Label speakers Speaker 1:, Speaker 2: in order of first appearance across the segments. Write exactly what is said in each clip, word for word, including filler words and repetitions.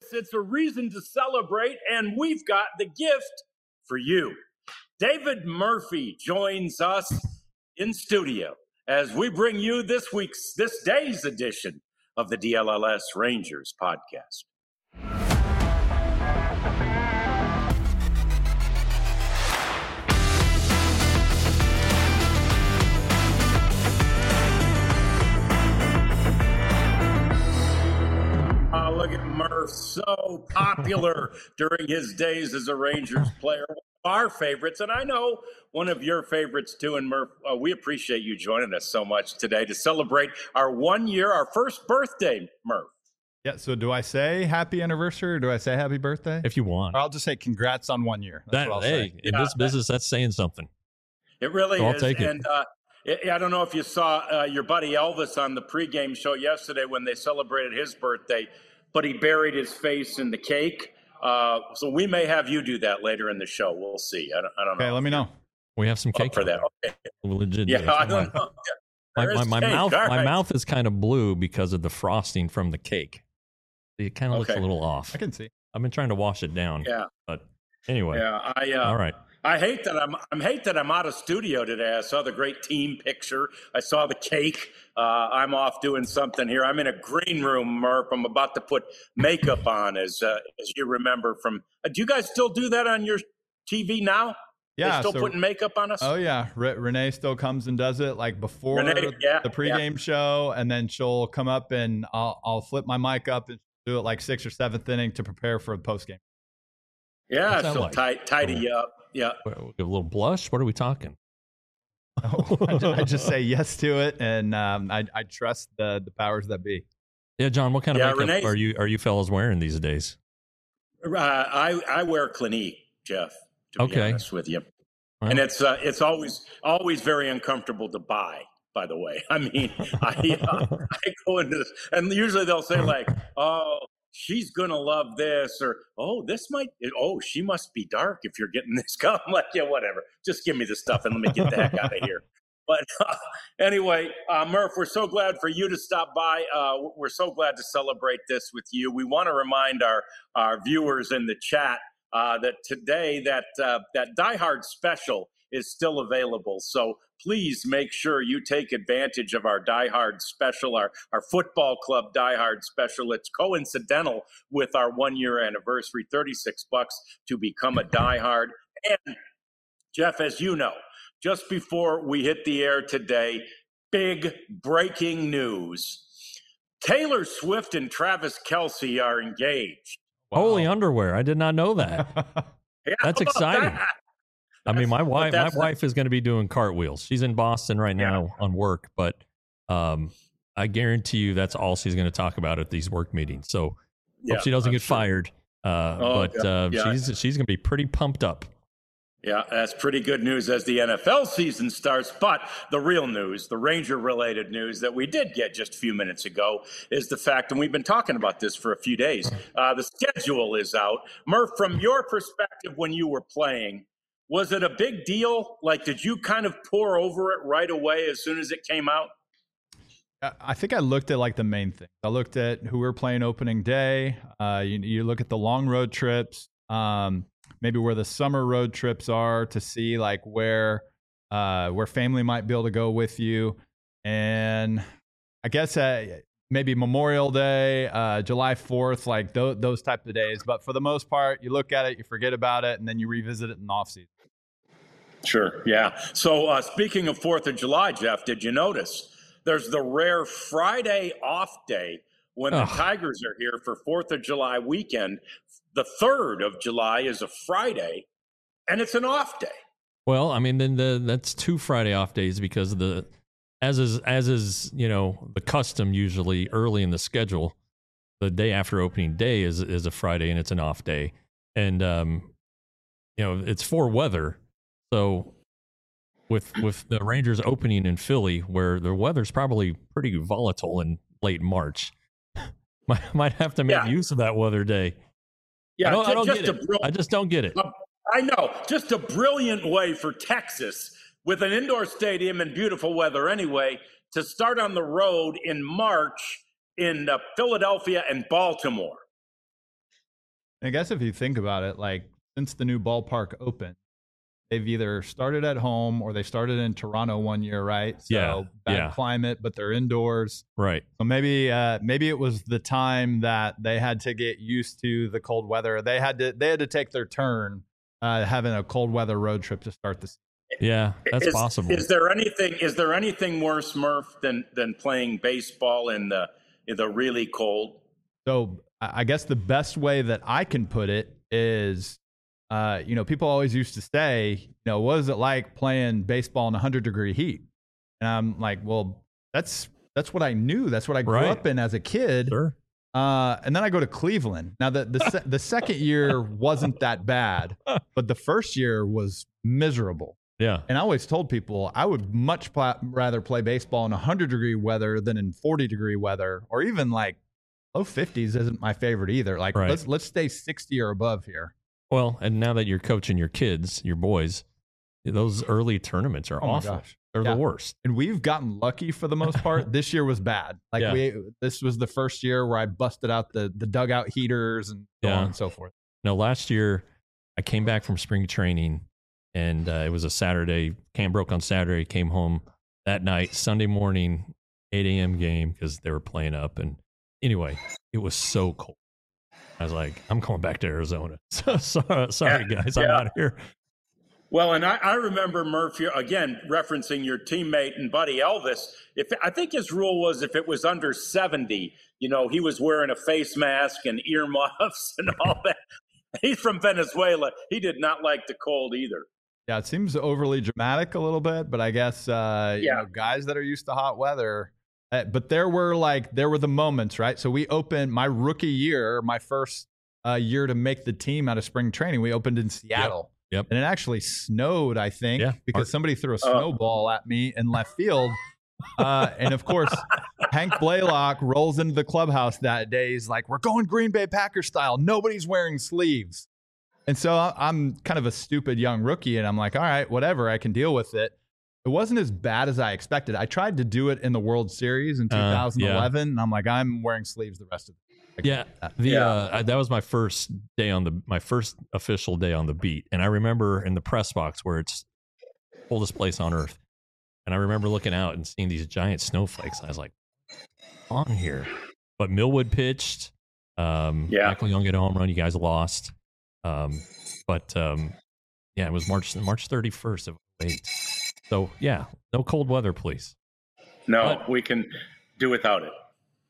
Speaker 1: It's a reason to celebrate, and we've got the gift for you. David Murphy joins us in studio as we bring you this week's, this day's edition of the D L L S Rangers podcast. Oh, look at Murph, so popular during his days as a Rangers player. Our favorites, and I know one of your favorites too. And Murph, uh, we appreciate you joining us so much today to celebrate our one year, our first birthday, Murph.
Speaker 2: Yeah, so do I say happy anniversary or do I say happy birthday?
Speaker 3: If you want.
Speaker 2: Or I'll just say congrats on one year. That's
Speaker 3: that,
Speaker 2: what I'll
Speaker 3: hey,
Speaker 2: say.
Speaker 3: in
Speaker 1: Yeah,
Speaker 3: this business, that's saying something.
Speaker 1: It really
Speaker 3: So I'll
Speaker 1: is.
Speaker 3: take it.
Speaker 1: And uh, I don't know if you saw uh, your buddy Elvis on the pregame show yesterday when they celebrated his birthday, but he buried his face in the cake. Uh, so we may have you do that later in the show. We'll see. I don't, I don't know.
Speaker 2: Okay, let me know.
Speaker 3: We have some cake
Speaker 1: for that. Okay.
Speaker 3: Legit.
Speaker 1: Yeah, I don't know.
Speaker 3: My,
Speaker 1: There
Speaker 3: my,
Speaker 1: is
Speaker 3: my
Speaker 1: cake.
Speaker 3: mouth,
Speaker 1: All
Speaker 3: my
Speaker 1: right.
Speaker 3: mouth is kind of blue because of the frosting from the cake. It kind of looks
Speaker 1: Okay.
Speaker 3: a little off.
Speaker 2: I can see.
Speaker 3: I've been trying to wash it down.
Speaker 1: Yeah.
Speaker 3: But anyway.
Speaker 1: Yeah. I. Uh,
Speaker 3: All right.
Speaker 1: I hate that I'm. I hate that I'm out of studio today. I saw the great team picture. I saw the cake. Uh, I'm off doing something here. I'm in a green room, Murph. I'm about to put makeup on, as uh, as you remember from. Uh, do you guys still do that on your T V now?
Speaker 2: Yeah,
Speaker 1: They still
Speaker 2: so-
Speaker 1: putting makeup on us.
Speaker 2: Oh, yeah. Re- Renee still comes and does it like before
Speaker 1: Renee, yeah,
Speaker 2: the pregame show. And then she'll come up and I'll, I'll flip my mic up and do it like sixth or seventh inning to prepare for the postgame.
Speaker 1: yeah,
Speaker 3: What's that
Speaker 1: she'll
Speaker 3: like?
Speaker 1: tight, tidy you up. Yeah.
Speaker 3: A little blush? What are we talking?
Speaker 2: Oh, I, ju- I just say yes to it. And um, I, I trust the, the powers that be.
Speaker 3: Yeah, John, what kind of
Speaker 1: Yeah,
Speaker 3: makeup
Speaker 1: Renee's-
Speaker 3: are you are you fellas wearing these days?
Speaker 1: Uh, I I wear Clinique, Jeff. To be
Speaker 3: Okay.
Speaker 1: honest with you,
Speaker 3: Well,
Speaker 1: and it's uh, it's always always very uncomfortable to buy. By the way, I mean I uh, I go into this, and usually they'll say like, "Oh, she's gonna love this," or "Oh, this might," "Oh, she must be dark if you're getting this." I'm like, yeah, whatever. Just give me the stuff and let me get the heck out of here. But uh, anyway, uh, Murph, we're so glad for you to stop by. Uh, we're so glad to celebrate this with you. We want to remind our our viewers in the chat uh, that today that uh, that Die Hard special is still available. So please make sure you take advantage of our Die Hard special, our our football club Die Hard special. It's coincidental with our one year anniversary. thirty-six bucks to become a Die Hard. And Jeff, as you know, just before we hit the air today, big breaking news. Taylor Swift and Travis Kelce are engaged.
Speaker 3: Holy underwear. I did not know that.
Speaker 1: Yeah,
Speaker 3: That's
Speaker 1: how about
Speaker 3: exciting.
Speaker 1: that?
Speaker 3: I mean, my
Speaker 1: That's-
Speaker 3: wife,
Speaker 1: but
Speaker 3: my
Speaker 1: that's-
Speaker 3: wife is going to be doing cartwheels. She's in Boston right now on work, but um, I guarantee you that's all she's going to talk about at these work meetings. So
Speaker 1: Yeah,
Speaker 3: hope she doesn't
Speaker 1: I'm
Speaker 3: get
Speaker 1: sure.
Speaker 3: fired. Uh,
Speaker 1: Oh,
Speaker 3: but
Speaker 1: yeah,
Speaker 3: uh,
Speaker 1: yeah.
Speaker 3: she's she's going to be pretty pumped up.
Speaker 1: Yeah, that's pretty good news as the N F L season starts. But the real news, the Ranger-related news that we did get just a few minutes ago is the fact, and we've been talking about this for a few days, uh, the schedule is out. Murph, from your perspective when you were playing, was it a big deal? Like, did you kind of pour over it right away as soon as it came out?
Speaker 2: I- I think I looked at like the main things. I looked at who we're playing opening day. Uh, you, you look at the long road trips, um, maybe where the summer road trips are to see like where uh, where family might be able to go with you. And I guess uh, maybe Memorial Day, uh, July fourth, like th- those type of days. But for the most part, you look at it, you forget about it, and then you revisit it in the off season.
Speaker 1: Sure, yeah. So uh, speaking of fourth of July, Jeff, did you notice there's the rare Friday off day when the
Speaker 3: Ugh.
Speaker 1: Tigers are here for fourth of July weekend? The third of July is a Friday, and it's an off day.
Speaker 3: Well, I mean, then the that's two Friday off days because of the as is as is you know the custom usually early in the schedule. The day after opening day is is a Friday and it's an off day, and um, you know it's for weather. So with with the Rangers opening in Philly, where the weather's probably pretty volatile in late March, might might have to make
Speaker 1: Yeah.
Speaker 3: use of that weather day.
Speaker 1: Yeah,
Speaker 3: I don't, I
Speaker 1: ju-
Speaker 3: don't
Speaker 1: just
Speaker 3: get
Speaker 1: a
Speaker 3: it.
Speaker 1: brill-
Speaker 3: I just don't get it.
Speaker 1: I know, just a brilliant way for Texas, with an indoor stadium and beautiful weather anyway, to start on the road in March in uh, Philadelphia and Baltimore.
Speaker 2: I guess if you think about it, like since the new ballpark opened, they've either started at home or they started in Toronto one year, right? So
Speaker 3: Yeah,
Speaker 2: bad
Speaker 3: yeah.
Speaker 2: climate, but they're indoors.
Speaker 3: Right.
Speaker 2: So maybe uh, maybe it was the time that they had to get used to the cold weather. They had to they had to take their turn uh, having a cold weather road trip to start the season.
Speaker 3: Yeah, that's
Speaker 1: is,
Speaker 3: possible.
Speaker 1: Is there anything is there anything worse, Murph, than than playing baseball in the in the really cold?
Speaker 2: So I I guess the best way that I can put it is, uh, you know, people always used to say, you know, what is it like playing baseball in one hundred degree heat? And I'm like, well, that's that's what I knew. That's what I grew
Speaker 3: Right.
Speaker 2: up in as a kid.
Speaker 3: Sure.
Speaker 2: Uh, and then I go to Cleveland. Now, the the, se- the second year wasn't that bad, but the first year was miserable.
Speaker 3: Yeah.
Speaker 2: And I always told people I would much pla- rather play baseball in one hundred degree weather than in forty degree weather, or even like low fifties isn't my favorite either. Like
Speaker 3: Right.
Speaker 2: let's let's stay sixty or above here.
Speaker 3: Well, and now that you're coaching your kids, your boys, those early tournaments are
Speaker 2: Oh my
Speaker 3: awful.
Speaker 2: gosh.
Speaker 3: They're
Speaker 2: Yeah.
Speaker 3: the worst.
Speaker 2: And we've gotten lucky for the most part. This year was bad. Like
Speaker 3: Yeah.
Speaker 2: we this was the first year where I busted out the the dugout heaters and so
Speaker 3: Yeah.
Speaker 2: on and so forth.
Speaker 3: No, last year I came back from spring training and uh, it was a Saturday. Camp broke on Saturday, came home that night, Sunday morning, eight a.m. game because they were playing up. And anyway, it was so cold. I was like, I'm going back to Arizona. So, sorry, sorry
Speaker 1: Yeah,
Speaker 3: guys, I'm
Speaker 1: yeah.
Speaker 3: out of here.
Speaker 1: Well, and I, I remember Murphy again referencing your teammate and buddy Elvis. If I think his rule was if it was under seventy, you know, he was wearing a face mask and earmuffs and all that. He's from Venezuela. He did not like the cold either.
Speaker 2: Yeah, it seems overly dramatic a little bit, but I guess uh, you
Speaker 1: Yeah.
Speaker 2: know, guys that are used to hot weather. Uh, but there were like there were the moments, right? So we opened my rookie year, my first uh, year to make the team out of spring training. We opened in Seattle,
Speaker 3: Yep.
Speaker 2: and it actually snowed, I think,
Speaker 3: Yeah.
Speaker 2: because somebody threw a
Speaker 1: Oh.
Speaker 2: snowball at me in left field. Uh, and of course, Hank Blaylock rolls into the clubhouse that day. He's like, "We're going Green Bay Packers style. Nobody's wearing sleeves." And so I- I'm kind of a stupid young rookie, and I'm like, all right, whatever, I can deal with it. It wasn't as bad as I expected. I tried to do it in the World Series in
Speaker 3: Uh, yeah.
Speaker 2: two thousand eleven, and I'm like, I'm wearing sleeves the rest of the
Speaker 3: Yeah,
Speaker 2: that.
Speaker 3: the
Speaker 1: Yeah.
Speaker 3: Uh, I- that was my first day on the my first official day on the beat, and I remember in the press box where it's coldest place on earth, and I remember looking out and seeing these giant snowflakes. And I was like, "On here," but Millwood pitched. Um,
Speaker 1: Yeah.
Speaker 3: Michael Young hit a home run. You guys lost, um, but um, yeah, it was March March thirty-first of eight. So yeah, no cold weather, please.
Speaker 1: No,
Speaker 3: But-
Speaker 1: we can do without it.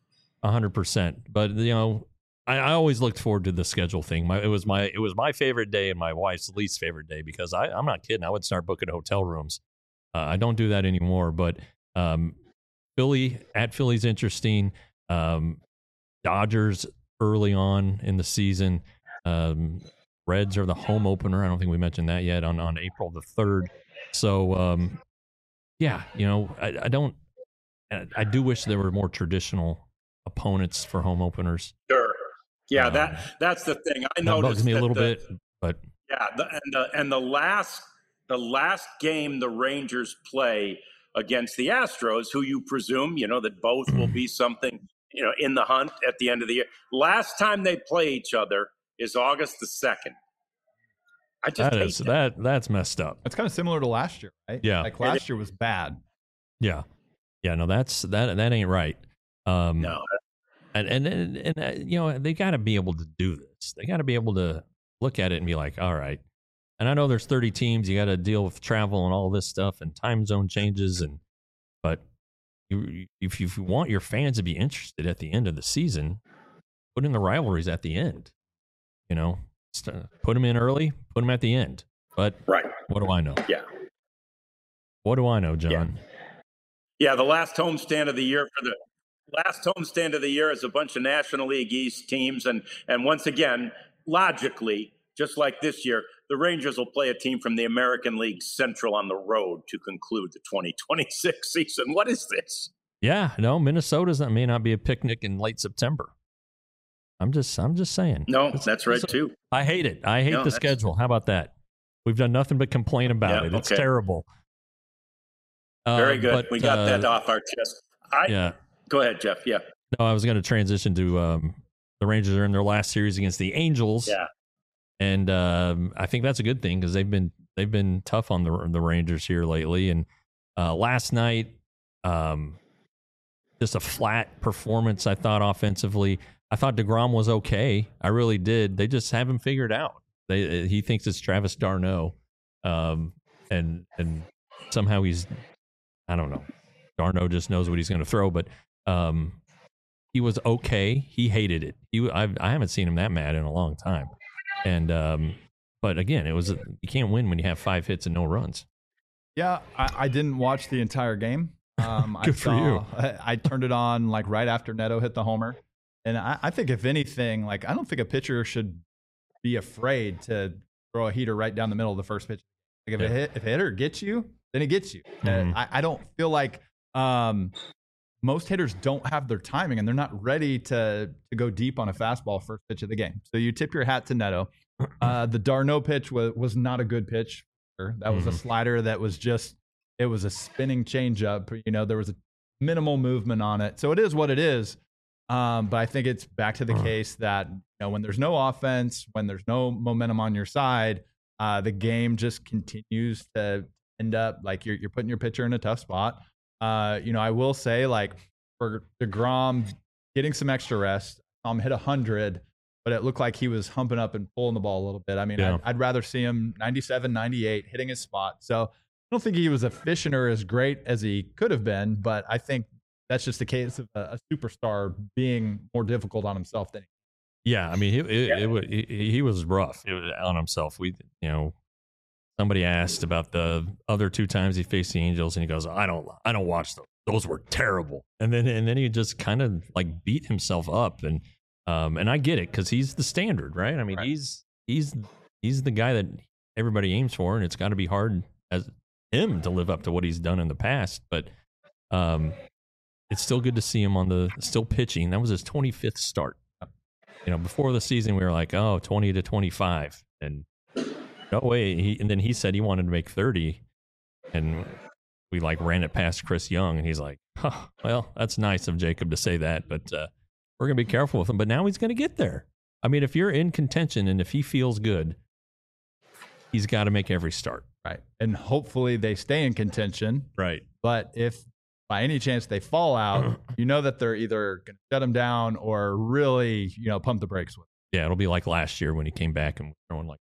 Speaker 3: A hundred percent. But you know, I, I always looked forward to the schedule thing. My it was my it was my favorite day and my wife's least favorite day because I, I'm not kidding. I would start booking hotel rooms. Uh, I don't do that anymore. But um, Philly at Philly's interesting. Um, Dodgers early on in the season. Um, Reds are the home opener. I don't think we mentioned that yet on on April the third. So um, yeah, you know, I, I don't. I I do wish there were more traditional opponents for home openers.
Speaker 1: Sure. Yeah,
Speaker 3: Um,
Speaker 1: that that's the thing. I
Speaker 3: That
Speaker 1: noticed
Speaker 3: bugs me a
Speaker 1: that
Speaker 3: little
Speaker 1: the-
Speaker 3: bit, but
Speaker 1: Yeah, the, and the and the last the last game the Rangers play against the Astros, who you presume you know that both will be something you know in the hunt at the end of the year. Last time they play each other is August the second. I just
Speaker 3: that
Speaker 1: hate
Speaker 3: is
Speaker 1: that.
Speaker 3: that that's messed up.
Speaker 2: It's kind of similar to last year, right?
Speaker 3: Yeah.
Speaker 2: Like last year was bad.
Speaker 3: Yeah, yeah, no, that's that that ain't right. Um,
Speaker 1: No,
Speaker 3: and and and, and uh, you know they got to be able to do this. They got to be able to look at it and be like, all right. And I know there's thirty teams. You got to deal with travel and all this stuff and time zone changes. And but you, if you want your fans to be interested at the end of the season, put in the rivalries at the end. You know, St- put them in early, put them at the end. But
Speaker 1: right.
Speaker 3: what do I know?
Speaker 1: Yeah.
Speaker 3: What do I know, John?
Speaker 1: Yeah, the last homestand of the year for the last homestand of the year is a bunch of National League East teams, and and once again, logically, just like this year, the Rangers will play a team from the American League Central on the road to conclude the twenty twenty-six season. What is this?
Speaker 3: Yeah, no, Minnesota's that may not be a picnic in late September. I'm just, I'm just saying.
Speaker 1: No,
Speaker 3: It's-
Speaker 1: that's right
Speaker 3: it's-
Speaker 1: too.
Speaker 3: I hate it. I hate
Speaker 1: No,
Speaker 3: the
Speaker 1: that's-
Speaker 3: schedule. How about that? We've done nothing but complain about
Speaker 1: Yeah,
Speaker 3: it. It's
Speaker 1: okay.
Speaker 3: terrible.
Speaker 1: Very
Speaker 3: Uh,
Speaker 1: good.
Speaker 3: but,
Speaker 1: we got
Speaker 3: uh,
Speaker 1: that off our chest. I
Speaker 3: Yeah.
Speaker 1: go ahead, Jeff. Yeah.
Speaker 3: No, I was going to transition to um, the Rangers are in their last series against the Angels.
Speaker 1: Yeah.
Speaker 3: And um, I think that's a good thing because they've been they've been tough on the the Rangers here lately. And uh, last night, um, just a flat performance. I thought offensively, I thought DeGrom was okay. I really did. They just haven't figured out. They he thinks it's Travis d'Arnaud, um, and and somehow he's I don't know. d'Arnaud just knows what he's going to throw, but um, he was okay. He hated it. He I've, I haven't seen him that mad in a long time. And um, but again, it was you can't win when you have five hits and no runs.
Speaker 2: Yeah, I, I didn't watch the entire game. Um,
Speaker 3: Good
Speaker 2: I
Speaker 3: for
Speaker 2: saw,
Speaker 3: you.
Speaker 2: I, I turned it on like right after Neto hit the homer, and I, I think if anything, like I don't think a pitcher should be afraid to throw a heater right down the middle of the first pitch. Like if
Speaker 3: Yeah.
Speaker 2: a hit, if a hitter gets you, then it gets you.
Speaker 3: Mhm.
Speaker 2: Uh, I, I don't feel like um, most hitters don't have their timing and they're not ready to to go deep on a fastball first pitch of the game. So you tip your hat to Neto. Uh, the d'Arnaud pitch was was not a good pitch. That was
Speaker 3: Mhm.
Speaker 2: a slider that was just it was a spinning changeup. You know, there was a minimal movement on it. So it is what it is. Um, but I think it's back to the case that you know when there's no offense, when there's no momentum on your side, uh, the game just continues to end up like you're you're putting your pitcher in a tough spot. Uh, you know, I will say like for DeGrom getting some extra rest, um, hit a hundred, but it looked like he was humping up and pulling the ball a little bit. I mean,
Speaker 3: Yeah.
Speaker 2: I'd, I'd rather see him ninety-seven, ninety-eight hitting his spot. So I don't think he was efficient or as great as he could have been, but I think that's just the case of a, a superstar being more difficult on himself than he.
Speaker 3: Yeah, I mean, it, it,
Speaker 1: Yeah.
Speaker 3: it, wa- he, he was rough it was on himself. We, you know, somebody asked about the other two times he faced the Angels, and he goes, "I don't, I don't watch those. Those were terrible." And then, and then he just kind of like beat himself up, and um, and I get it because he's the standard, right? I mean,
Speaker 2: Right.
Speaker 3: he's he's he's the guy that everybody aims for, and it's got to be hard as him to live up to what he's done in the past. But um, it's still good to see him on the still pitching. That was his twenty-fifth start. You know, before the season, we were like, oh, twenty to twenty-five. And no way. He, and then he said he wanted to make thirty. And we like ran it past Chris Young. And he's like, huh, well, that's nice of Jacob to say that. But uh, we're going to be careful with him. But now he's going to get there. I mean, if you're in contention and if he feels good, he's got to make every start.
Speaker 2: Right. And hopefully they stay in contention.
Speaker 3: Right.
Speaker 2: But if by any chance they fall out, you know that they're either going to shut him down or really, you know, pump the brakes with him.
Speaker 3: Yeah, it'll be like last year when he came back and was throwing like,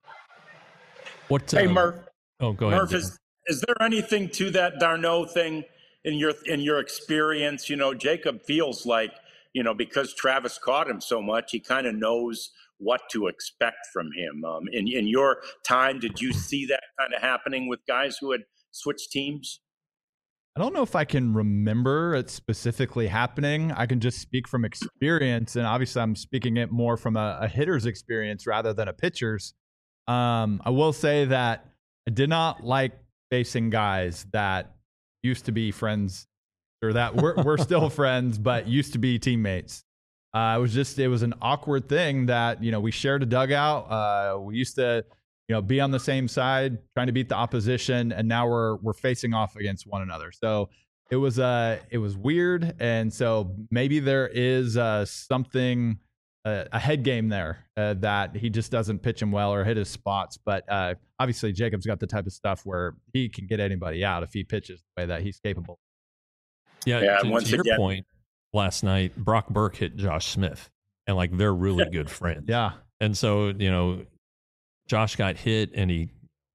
Speaker 3: what?
Speaker 1: Hey,
Speaker 3: uh,
Speaker 1: Murph.
Speaker 3: Oh, go ahead.
Speaker 1: Murph, is, is there anything to that d'Arnaud thing in your in your experience? You know, Jacob feels like, you know, because Travis caught him so much, he kind of knows what to expect from him. Um, in, in your time, did you see that kind of happening with guys who had switched teams?
Speaker 2: I don't know if I can remember it specifically happening. I can just speak from experience, and obviously I'm speaking it more from a, a hitter's experience rather than a pitcher's. Um, I will say that I did not like facing guys that used to be friends, or that we're, we're still friends, but used to be teammates. Uh, it was just, it was an awkward thing that, you know, we shared a dugout. Uh, we used to, you know, be on the same side trying to beat the opposition, and now we're we're facing off against one another. So it was uh it was weird, and so maybe there is uh something uh, a head game there uh, that he just doesn't pitch him well or hit his spots. But uh, obviously Jacob's got the type of stuff where he can get anybody out if he pitches the way that he's capable.
Speaker 3: Yeah,
Speaker 1: Yeah,
Speaker 3: to,
Speaker 1: once
Speaker 3: to your
Speaker 1: again-
Speaker 3: point, last night Brock Burke hit Josh Smith, and like they're really good friends.
Speaker 2: Yeah,
Speaker 3: and so you know, Josh got hit and he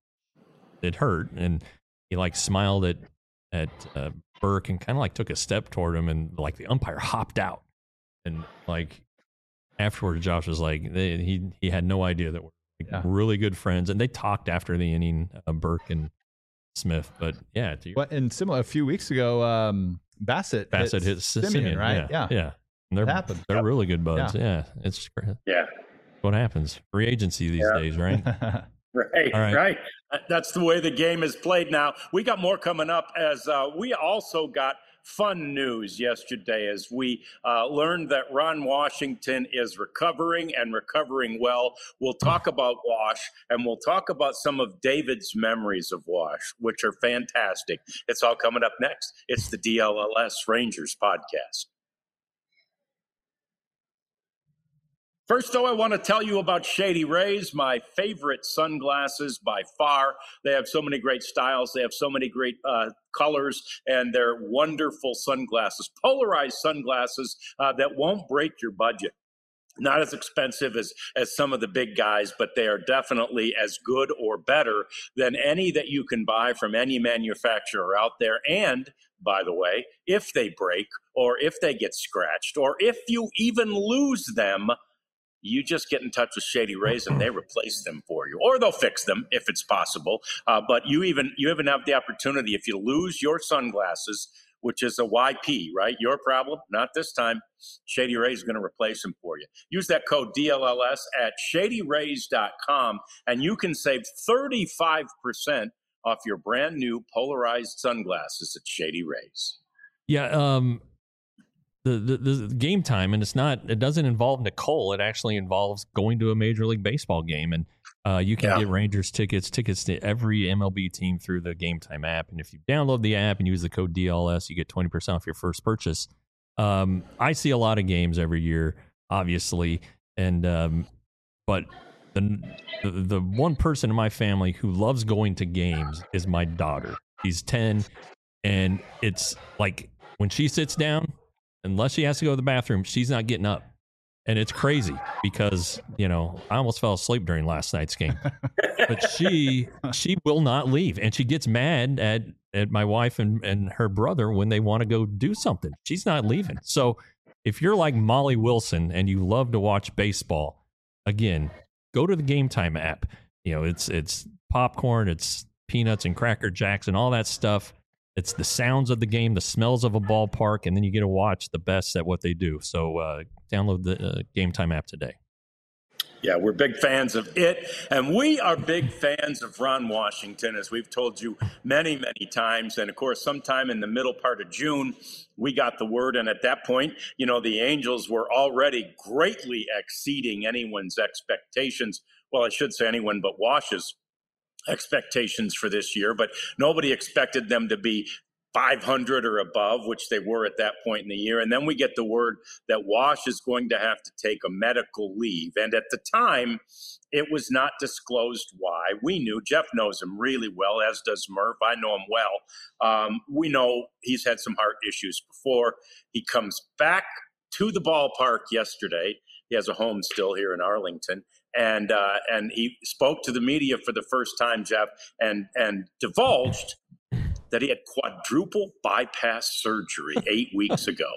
Speaker 3: it hurt, and he like smiled at at uh, Burke and kind of like took a step toward him, and like the umpire hopped out, and like afterward, Josh was like they, he he had no idea that we're like,
Speaker 2: Yeah.
Speaker 3: really good friends, and they talked after the inning, uh, Burke and Smith. But yeah, to your,
Speaker 2: but and similar a few weeks ago, um, Bassett
Speaker 3: Bassett hit
Speaker 2: Simeon,
Speaker 3: Simeon,
Speaker 2: right?
Speaker 3: Yeah, yeah. And they're
Speaker 2: It happened.
Speaker 3: they're
Speaker 1: Yep.
Speaker 3: really good buds. Yeah, it's great.
Speaker 1: Yeah.
Speaker 3: What happens? Free agency these
Speaker 1: Yeah.
Speaker 3: days, right?
Speaker 1: Right,
Speaker 3: All right.
Speaker 1: right. That's the way the game is played now. We got more coming up as uh, we also got fun news yesterday as we uh, learned that Ron Washington is recovering and recovering well. We'll talk about Wash, and we'll talk about some of David's memories of Wash, which are fantastic. It's all coming up next. It's the D L L S Rangers podcast. First, though, I want to tell you about Shady Rays, my favorite sunglasses by far. They have so many great styles. They have so many great uh, colors, and they're wonderful sunglasses, polarized sunglasses uh, that won't break your budget. Not as expensive as, as some of the big guys, but they are definitely as good or better than any that you can buy from any manufacturer out there. And by the way, if they break or if they get scratched or if you even lose them, you just get in touch with Shady Rays and they replace them for you, or they'll fix them if it's possible. Uh, but you even you even have the opportunity, if you lose your sunglasses, which is a Y P, right? Your problem, not this time. Shady Rays is going to replace them for you. Use that code D L L S at shady rays dot com, and you can save thirty-five percent off your brand new polarized sunglasses at Shady Rays.
Speaker 3: Yeah, um, the, the the game time, and it's not. It doesn't involve Nicole. It actually involves going to a Major League Baseball game, and uh, you can yeah. get Rangers tickets, tickets to every M L B team through the Game Time app. And if you download the app and use the code D L S, you get twenty percent off your first purchase. Um, I see a lot of games every year, obviously, and um, but the, the the one person in my family who loves going to games is my daughter. She's ten, and it's like when she sits down, unless she has to go to the bathroom, she's not getting up. And it's crazy because, you know, I almost fell asleep during last night's game. But she she will not leave. And she gets mad at, at my wife and, and her brother when they want to go do something. She's not leaving. So if you're like Molly Wilson and you love to watch baseball, again, go to the Game Time app. You know, it's it's popcorn, it's peanuts and Cracker Jacks and all that stuff. It's the sounds of the game, the smells of a ballpark, and then you get to watch the best at what they do. So uh, download the uh, Game Time app today.
Speaker 1: Yeah, we're big fans of it, and we are big fans of Ron Washington, as we've told you many, many times. And, of course, sometime in the middle part of June, we got the word, and at that point, you know, the Angels were already greatly exceeding anyone's expectations. Well, I should say anyone but Wash's expectations for this year, but nobody expected them to be five hundred or above, which they were at that point in the year. And then we get the word that Wash is going to have to take a medical leave. And at the time, it was not disclosed why. We knew. Jeff knows him really well, as does Murph. I know him well. Um, we know he's had some heart issues before. He comes back to the ballpark yesterday. He has a home still here in Arlington. And uh, and he spoke to the media for the first time, Jeff, and and divulged that he had quadruple bypass surgery eight weeks ago.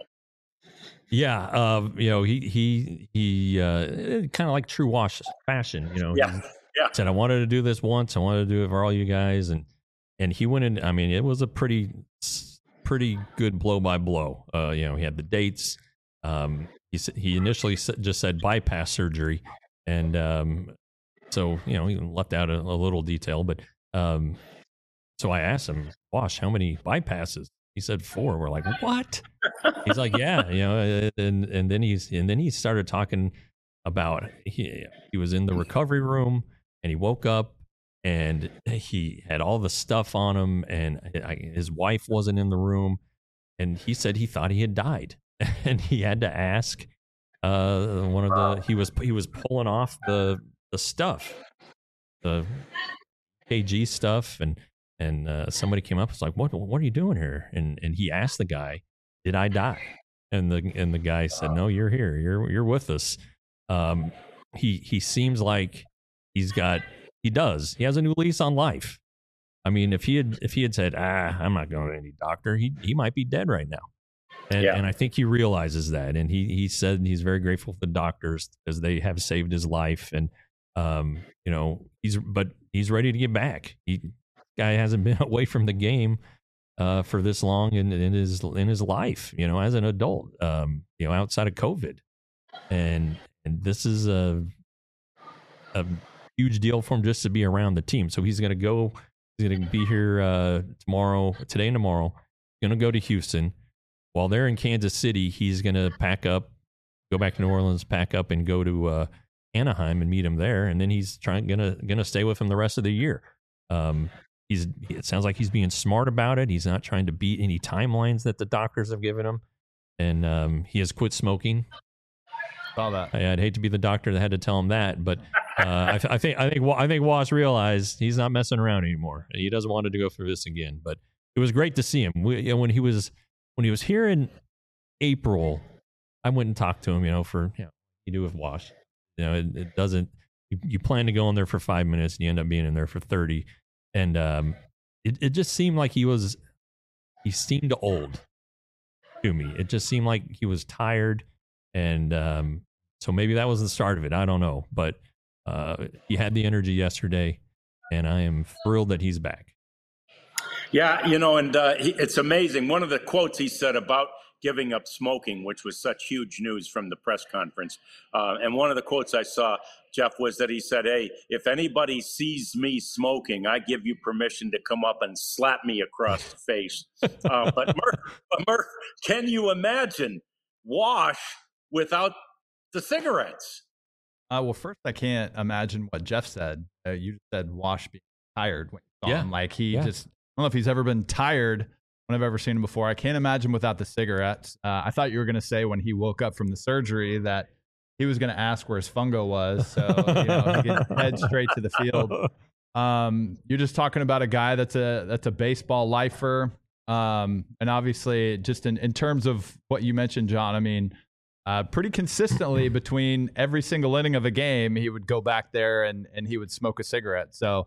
Speaker 3: Yeah, uh, you know, he he he uh, kind of like true Wash fashion, you know.
Speaker 1: Yeah,
Speaker 3: he
Speaker 1: yeah.
Speaker 3: Said I wanted to do this once. I wanted to do it for all you guys, and and he went in. I mean, it was a pretty pretty good blow by blow. Uh, you know, he had the dates. Um, he he initially just said bypass surgery. And um, so, you know, he left out a, a little detail, but um, so I asked him, Wash, how many bypasses? He said four. We're like, what? He's like, yeah, you know, and and then he's and then he started talking about he he was in the recovery room and he woke up and he had all the stuff on him and his wife wasn't in the room and he said he thought he had died and he had to ask. Uh, one of the he was he was pulling off the the stuff, the K G stuff, and and uh, somebody came up. It's like, what what are you doing here? And and he asked the guy, did I die? And the and the guy said, no, you're here. You're you're with us. Um, he he seems like he's got he does he has a new lease on life. I mean, if he had if he had said, ah, I'm not going to any doctor, he he might be dead right now. And, yeah. and I think he realizes that. And he, he said he's very grateful for the doctors because they have saved his life. And, um, you know, he's, but he's ready to get back. He guy hasn't been away from the game, uh, for this long in, in his, in his life, you know, as an adult, um, you know, outside of COVID. And, and this is a, a huge deal for him just to be around the team. So he's going to go, he's going to be here, uh, tomorrow, today and tomorrow, going to go to Houston. While they're in Kansas City, he's going to pack up, go back to New Orleans, pack up, and go to uh, Anaheim and meet him there. And then he's trying gonna gonna stay with him the rest of the year. Um, he's it sounds like he's being smart about it. He's not trying to beat any timelines that the doctors have given him, and um, he has quit smoking.
Speaker 2: saw that.
Speaker 3: I, I'd hate to be the doctor that had to tell him that, but uh, I, I think I think I think Wash realized he's not messing around anymore. He doesn't want to go through this again. But it was great to see him. We, you know, when he was when he was here in April, I went and talked to him. You know, for you know, you do with Wash. You know, it, it doesn't. You, you plan to go in there for five minutes, and you end up being in there for thirty. And um, it it just seemed like he was he seemed old to me. It just seemed like he was tired. And um, so maybe that was the start of it. I don't know. But uh, he had the energy yesterday, and I am thrilled that he's back.
Speaker 1: Yeah, you know, and uh, he, it's amazing. One of the quotes he said about giving up smoking, which was such huge news from the press conference. Uh, and one of the quotes I saw, Jeff, was that he said, hey, if anybody sees me smoking, I give you permission to come up and slap me across the face. Uh, but Murph, Murph, can you imagine Wash without the cigarettes?
Speaker 2: Uh, well, first, I can't imagine what Jeff said. Uh, you said Wash being tired when you saw
Speaker 3: Yeah.
Speaker 2: him. Like he
Speaker 3: Yeah.
Speaker 2: just, I don't know if he's ever been tired when I've ever seen him before. I can't imagine without the cigarettes. Uh, I thought you were going to say when he woke up from the surgery that he was going to ask where his fungo was. So, you know, he could head straight to the field. Um, you're just talking about a guy that's a, that's a baseball lifer. Um, and obviously just in, in terms of what you mentioned, John, I mean, Uh, pretty consistently between every single inning of a game, he would go back there and, and he would smoke a cigarette. So,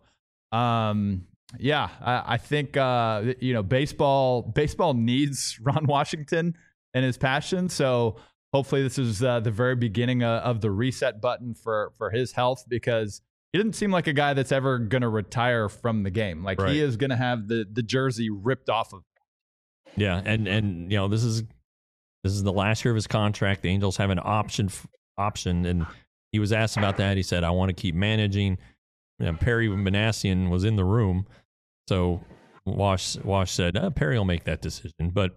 Speaker 2: um, yeah, I, I think, uh, you know, baseball, baseball needs Ron Washington and his passion. So hopefully this is uh, the very beginning of, of the reset button for, for his health, because he didn't seem like a guy that's ever going to retire from the game. Like
Speaker 3: Right.
Speaker 2: he is going to have the, the jersey ripped off of him.
Speaker 3: Yeah, and and you know this is this is the last year of his contract. The Angels have an option option, and he was asked about that. He said, "I want to keep managing." You know, Perry Manassian was in the room, so Wash Wash said, uh, "Perry will make that decision." But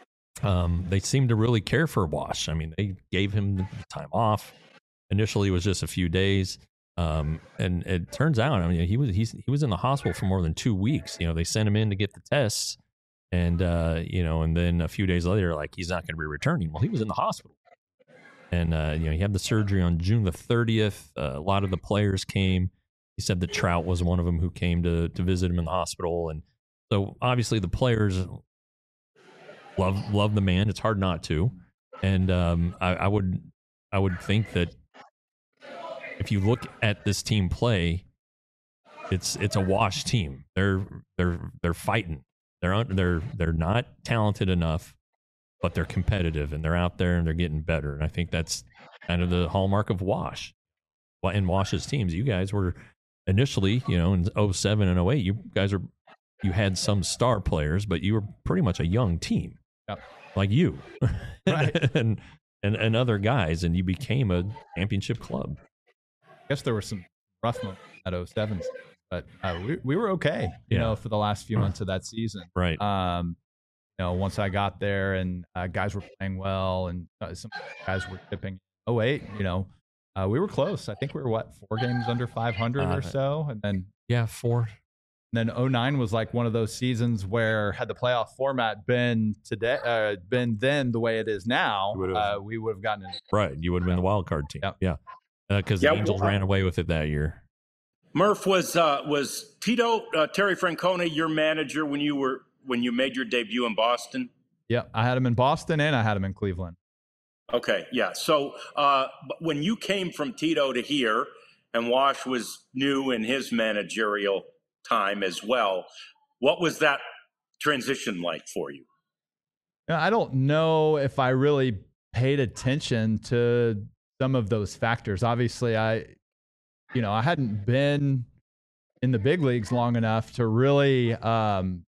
Speaker 3: um, they seemed to really care for Wash. I mean, they gave him the time off. Initially, it was just a few days, um, and it turns out, I mean, he was he's, he was in the hospital for more than two weeks. You know, they sent him in to get the tests. And, uh, you know, and then a few days later, like, he's not going to be returning. Well, he was in the hospital. And, uh, you know, he had the surgery on June the thirtieth. Uh, a lot of the players came. He said that Trout was one of them who came to, to visit him in the hospital. And so, obviously, the players love love the man. It's hard not to. And um, I, I would I would think that if you look at this team play, it's it's a Wash team. They're they're they're fighting. They're they're they're not talented enough, but they're competitive and they're out there and they're getting better. And I think that's kind of the hallmark of Wash. Well, in Wash's teams, you guys were initially, you know, in oh seven and oh eight, you guys were you had some star players, but you were pretty much a young team,
Speaker 2: Yep.
Speaker 3: like you,
Speaker 2: Right.
Speaker 3: and and and other guys, and you became a championship club.
Speaker 2: I guess there were some rough moments at oh seven, but uh, we we were okay, you
Speaker 3: Yeah.
Speaker 2: know, for the last few months of that season.
Speaker 3: Right.
Speaker 2: Um, you know, once I got there and uh, guys were playing well and uh, some guys were tipping. oh eight, you know, uh, we were close. I think we were what four games under five hundred
Speaker 3: Uh,
Speaker 2: or so, and then
Speaker 3: Yeah, four.
Speaker 2: and then oh nine was like one of those seasons where had the playoff format been today, uh, been then the way it is now,
Speaker 3: You would've-
Speaker 2: uh, we would have gotten it.
Speaker 3: Right. You would have been the wild card team.
Speaker 2: Yep.
Speaker 3: Yeah. Because
Speaker 1: Yeah,
Speaker 3: the Angels
Speaker 1: well,
Speaker 3: ran away with it that year.
Speaker 1: Murph, was uh, was Tito uh, Terry Francona your manager when you were when you made your debut in Boston?
Speaker 2: Yeah, I had him in Boston and I had him in Cleveland.
Speaker 1: Okay, yeah. So uh, but when you came from Tito to here, and Wash was new in his managerial time as well, what was that transition like for you?
Speaker 2: Yeah, I don't know if I really paid attention to some of those factors. Obviously, I, you know, I hadn't been in the big leagues long enough to really, um,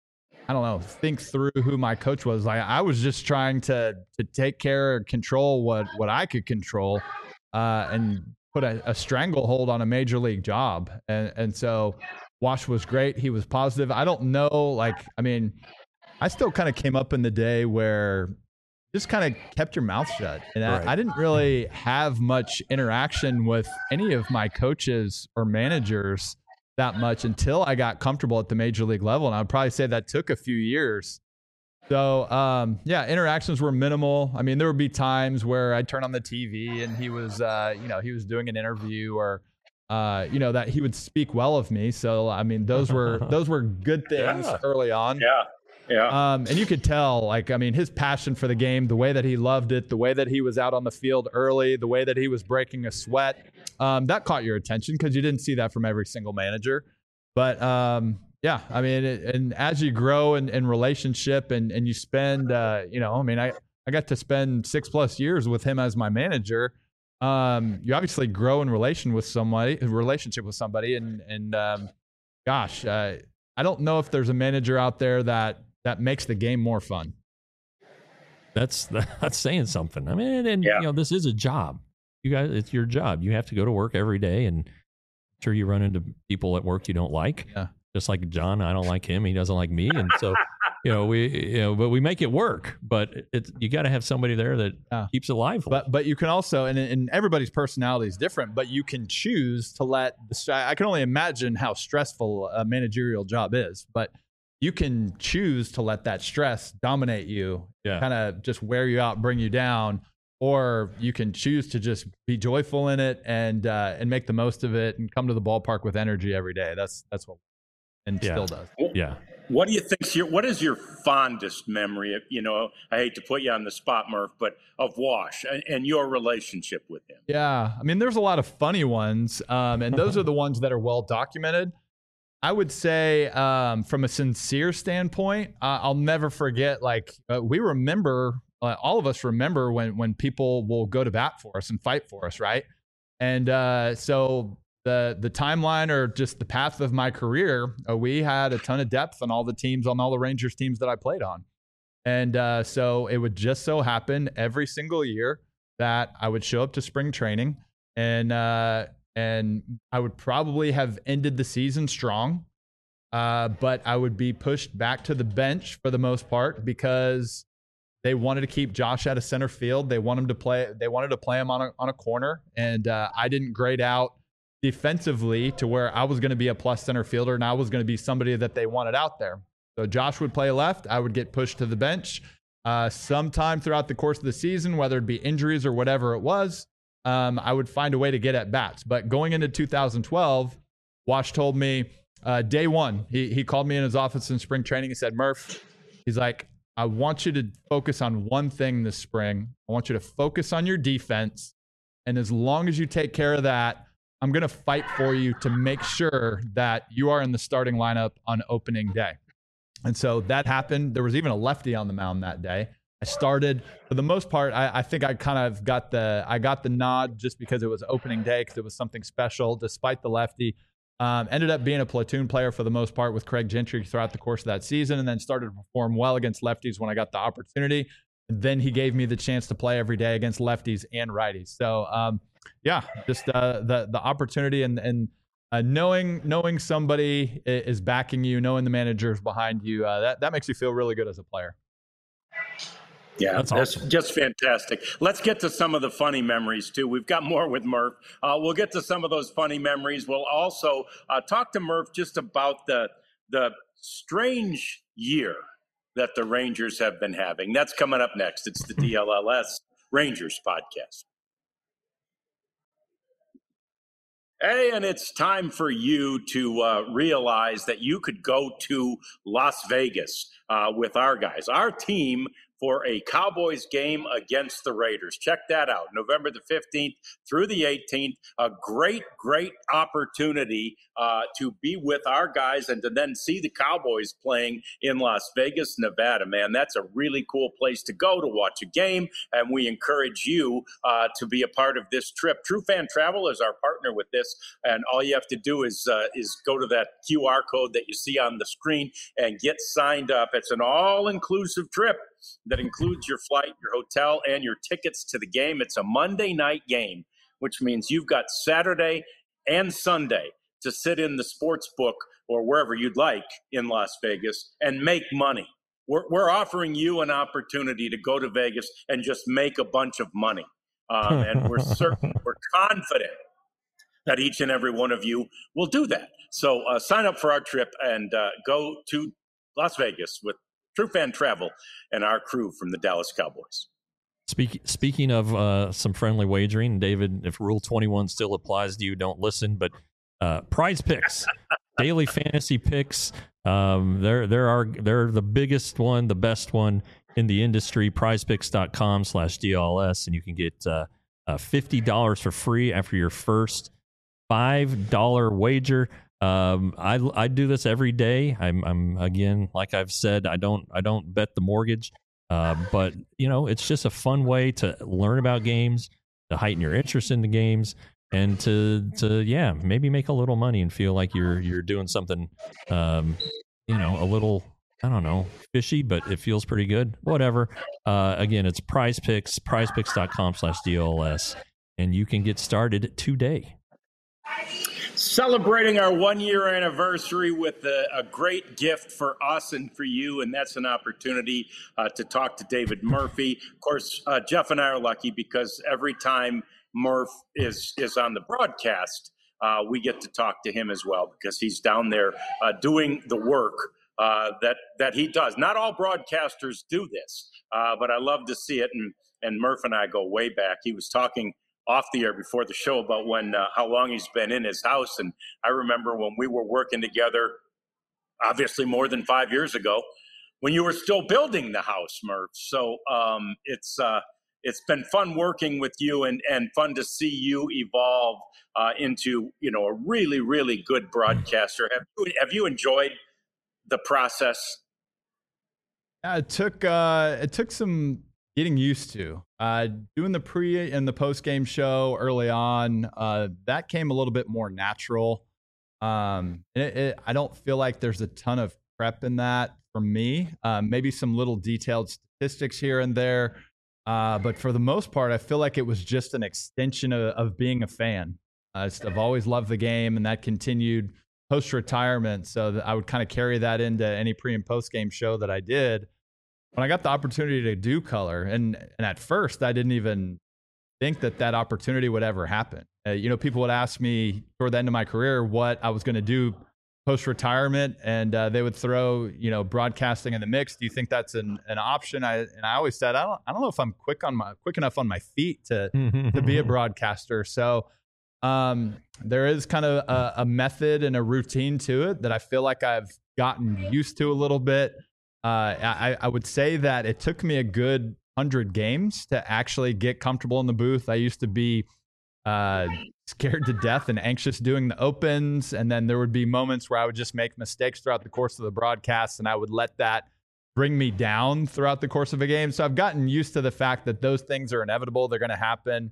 Speaker 2: I don't know, think through who my coach was. Like, I was just trying to to take care and control what what I could control, uh, and put a, a stranglehold on a major league job. And and so, Wash was great. He was positive. I don't know, like, I mean, I still kind of came up in the day where just kind of kept your mouth shut. And
Speaker 3: Right.
Speaker 2: I, I didn't really have much interaction with any of my coaches or managers that much until I got comfortable at the major league level. And I would probably say that took a few years So, um, yeah, interactions were minimal. I mean, there would be times where I'd turn on the T V and he was, uh, you know, he was doing an interview or, uh, you know, that he would speak well of me. So, I mean, those were those were good things
Speaker 1: Yeah.
Speaker 2: early on.
Speaker 1: Yeah. Yeah.
Speaker 2: Um, and you could tell, like, I mean, his passion for the game, the way that he loved it, the way that he was out on the field early, the way that he was breaking a sweat, um, that caught your attention because you didn't see that from every single manager. But, um, yeah, I mean, it, and as you grow in, in relationship and, and you spend, uh, you know, I mean, I, I got to spend six plus years with him as my manager. Um, you obviously grow in relation with somebody, relationship with somebody. And, and um, gosh, uh, I don't know if there's a manager out there that, that makes the game more fun.
Speaker 3: That's, that's saying something. I mean, and,
Speaker 1: Yeah.
Speaker 3: you know, this is a job. You guys, it's your job. You have to go to work every day, and I'm sure you run into people at work you don't like.
Speaker 2: Yeah.
Speaker 3: Just like John, I don't like him. He doesn't like me. And so, you know, we, you know, but we make it work, but it's, you got to have somebody there that
Speaker 2: Yeah.
Speaker 3: keeps it lively.
Speaker 2: But but you can also, and, and everybody's personality is different, but you can choose to let the, I can only imagine how stressful a managerial job is, but you can choose to let that stress dominate you,
Speaker 3: Yeah.
Speaker 2: kind of just wear you out, bring you down, or you can choose to just be joyful in it and uh, and make the most of it and come to the ballpark with energy every day. That's that's what and
Speaker 3: Yeah.
Speaker 2: still does.
Speaker 3: yeah.
Speaker 1: What do you think's your what is your fondest memory of, you know, I hate to put you on the spot, Murph, but of Wash and, and your relationship with him?
Speaker 2: Yeah, I mean, there's a lot of funny ones, um, and those are the ones that are well documented. I would say, um, from a sincere standpoint, uh, I'll never forget. Like uh, we remember, uh, all of us remember when when people will go to bat for us and fight for us, right? And uh, so the the timeline or just the path of my career, uh, we had a ton of depth on all the teams, on all the Rangers teams that I played on. And uh, so it would just so happen every single year that I would show up to spring training and uh, and I would probably have ended the season strong, uh, but I would be pushed back to the bench for the most part because they wanted to keep Josh out of center field. They want him to play. They wanted to play him on a on a corner, and uh, I didn't grade out defensively to where I was going to be a plus center fielder and I was going to be somebody that they wanted out there. So Josh would play left. I would get pushed to the bench. Uh, sometime throughout the course of the season, whether it be injuries or whatever it was, um, I would find a way to get at bats. But going into two thousand twelve, Wash told me uh, day one, he, he called me in his office in spring training. He said, Murph, he's like, I want you to focus on one thing this spring. I want you to focus on your defense. And as long as you take care of that, I'm going to fight for you to make sure that you are in the starting lineup on opening day. And so that happened. There was even a lefty on the mound that day. I started, for the most part, I, I think I kind of got the I got the nod just because it was opening day, because it was something special, despite the lefty. Um, ended up being a platoon player for the most part with Craig Gentry throughout the course of that season, and then started to perform well against lefties when I got the opportunity. And then he gave me the chance to play every day against lefties and righties. So, um, yeah, just uh, the the opportunity and and uh, knowing knowing somebody is backing you, knowing the manager is behind you, uh, that that makes you feel really good as a player.
Speaker 1: Yeah,
Speaker 3: That's
Speaker 1: that's
Speaker 3: awesome.
Speaker 1: just fantastic. Let's get to some of the funny memories, too. We've got more with Murph. Uh, we'll get to some of those funny memories. We'll also uh, talk to Murph just about the the strange year that the Rangers have been having. That's coming up next. It's the D L L S Rangers podcast. Hey, and it's time for you to uh, realize that you could go to Las Vegas uh, with our guys, our team, for a Cowboys game against the Raiders. Check that out, November the fifteenth through the eighteenth. A great, great opportunity uh, to be with our guys and to then see the Cowboys playing in Las Vegas, Nevada. Man, that's a really cool place to go to watch a game, and we encourage you uh, to be a part of this trip. True Fan Travel is our partner with this, and all you have to do is uh, is go to that Q R code that you see on the screen and get signed up. It's an all-inclusive trip that includes your flight, your hotel, and your tickets to the game. It's a Monday night game, which means you've got Saturday and Sunday to sit in the sports book or wherever you'd like in Las Vegas and make money. We're, we're offering you an opportunity to go to Vegas and just make a bunch of money. Um, and we're certain, we're confident that each and every one of you will do that. So uh, sign up for our trip and uh, go to Las Vegas with True Fan Travel and our crew from the Dallas Cowboys.
Speaker 3: Speak, speaking of uh, some friendly wagering, David, if Rule twenty-one still applies to you, don't listen. But uh, Prize Picks, daily fantasy picks, um, they're they're our they're the biggest one, the best one in the industry. PrizePicks.com slash DLS, and you can get uh, uh, fifty dollars for free after your first five dollar wager. Um, I I do this every day. I'm I'm again, like I've said, I don't I don't bet the mortgage. Uh, but, you know, it's just a fun way to learn about games, to heighten your interest in the games, and to, to yeah, maybe make a little money and feel like you're you're doing something, um, you know, a little, I don't know, fishy, but it feels pretty good. Whatever. Uh, again, it's Prize Picks, prizepicks.com slash DLS, and you can get started today.
Speaker 1: Celebrating our one-year anniversary with a, a great gift for us and for you, and that's an opportunity uh, to talk to David Murphy. Of course, uh, Jeff and I are lucky because every time Murph is is on the broadcast, uh, we get to talk to him as well because he's down there uh, doing the work uh, that that he does. Not all broadcasters do this, uh, but I love to see it, and, and Murph and I go way back. He was talking off the air before the show about when uh, how long he's been in his house. And I remember when we were working together, obviously more than five years ago, when you were still building the house, Murph. So um, it's uh, it's been fun working with you and, and fun to see you evolve uh, into, you know, a really, really good broadcaster. Have you, have you enjoyed the process?
Speaker 2: Yeah, it took uh, it took some getting used to uh, doing the pre and the post game show early on. Uh, that came a little bit more natural. Um, it, it, I don't feel like there's a ton of prep in that for me. Uh, maybe some little detailed statistics here and there, uh, but for the most part, I feel like it was just an extension of, of being a fan. Uh, I've always loved the game, and that continued post retirement. So that I would kind of carry that into any pre and post game show that I did. When I got the opportunity to do color, and, and at first I didn't even think that that opportunity would ever happen. Uh, you know, people would ask me toward the end of my career what I was going to do post-retirement, and uh, they would throw, you know, broadcasting in the mix. Do you think that's an, an option? I, and I always said, I don't, I don't know if I'm quick on my quick enough on my feet to to be a broadcaster. So um, there is kind of a, a method and a routine to it that I feel like I've gotten used to a little bit. Uh, I, I would say that it took me a good hundred games to actually get comfortable in the booth. I used to be uh, scared to death and anxious doing the opens. And then there would be moments where I would just make mistakes throughout the course of the broadcast, and I would let that bring me down throughout the course of a game. So I've gotten used to the fact that those things are inevitable. They're going to happen.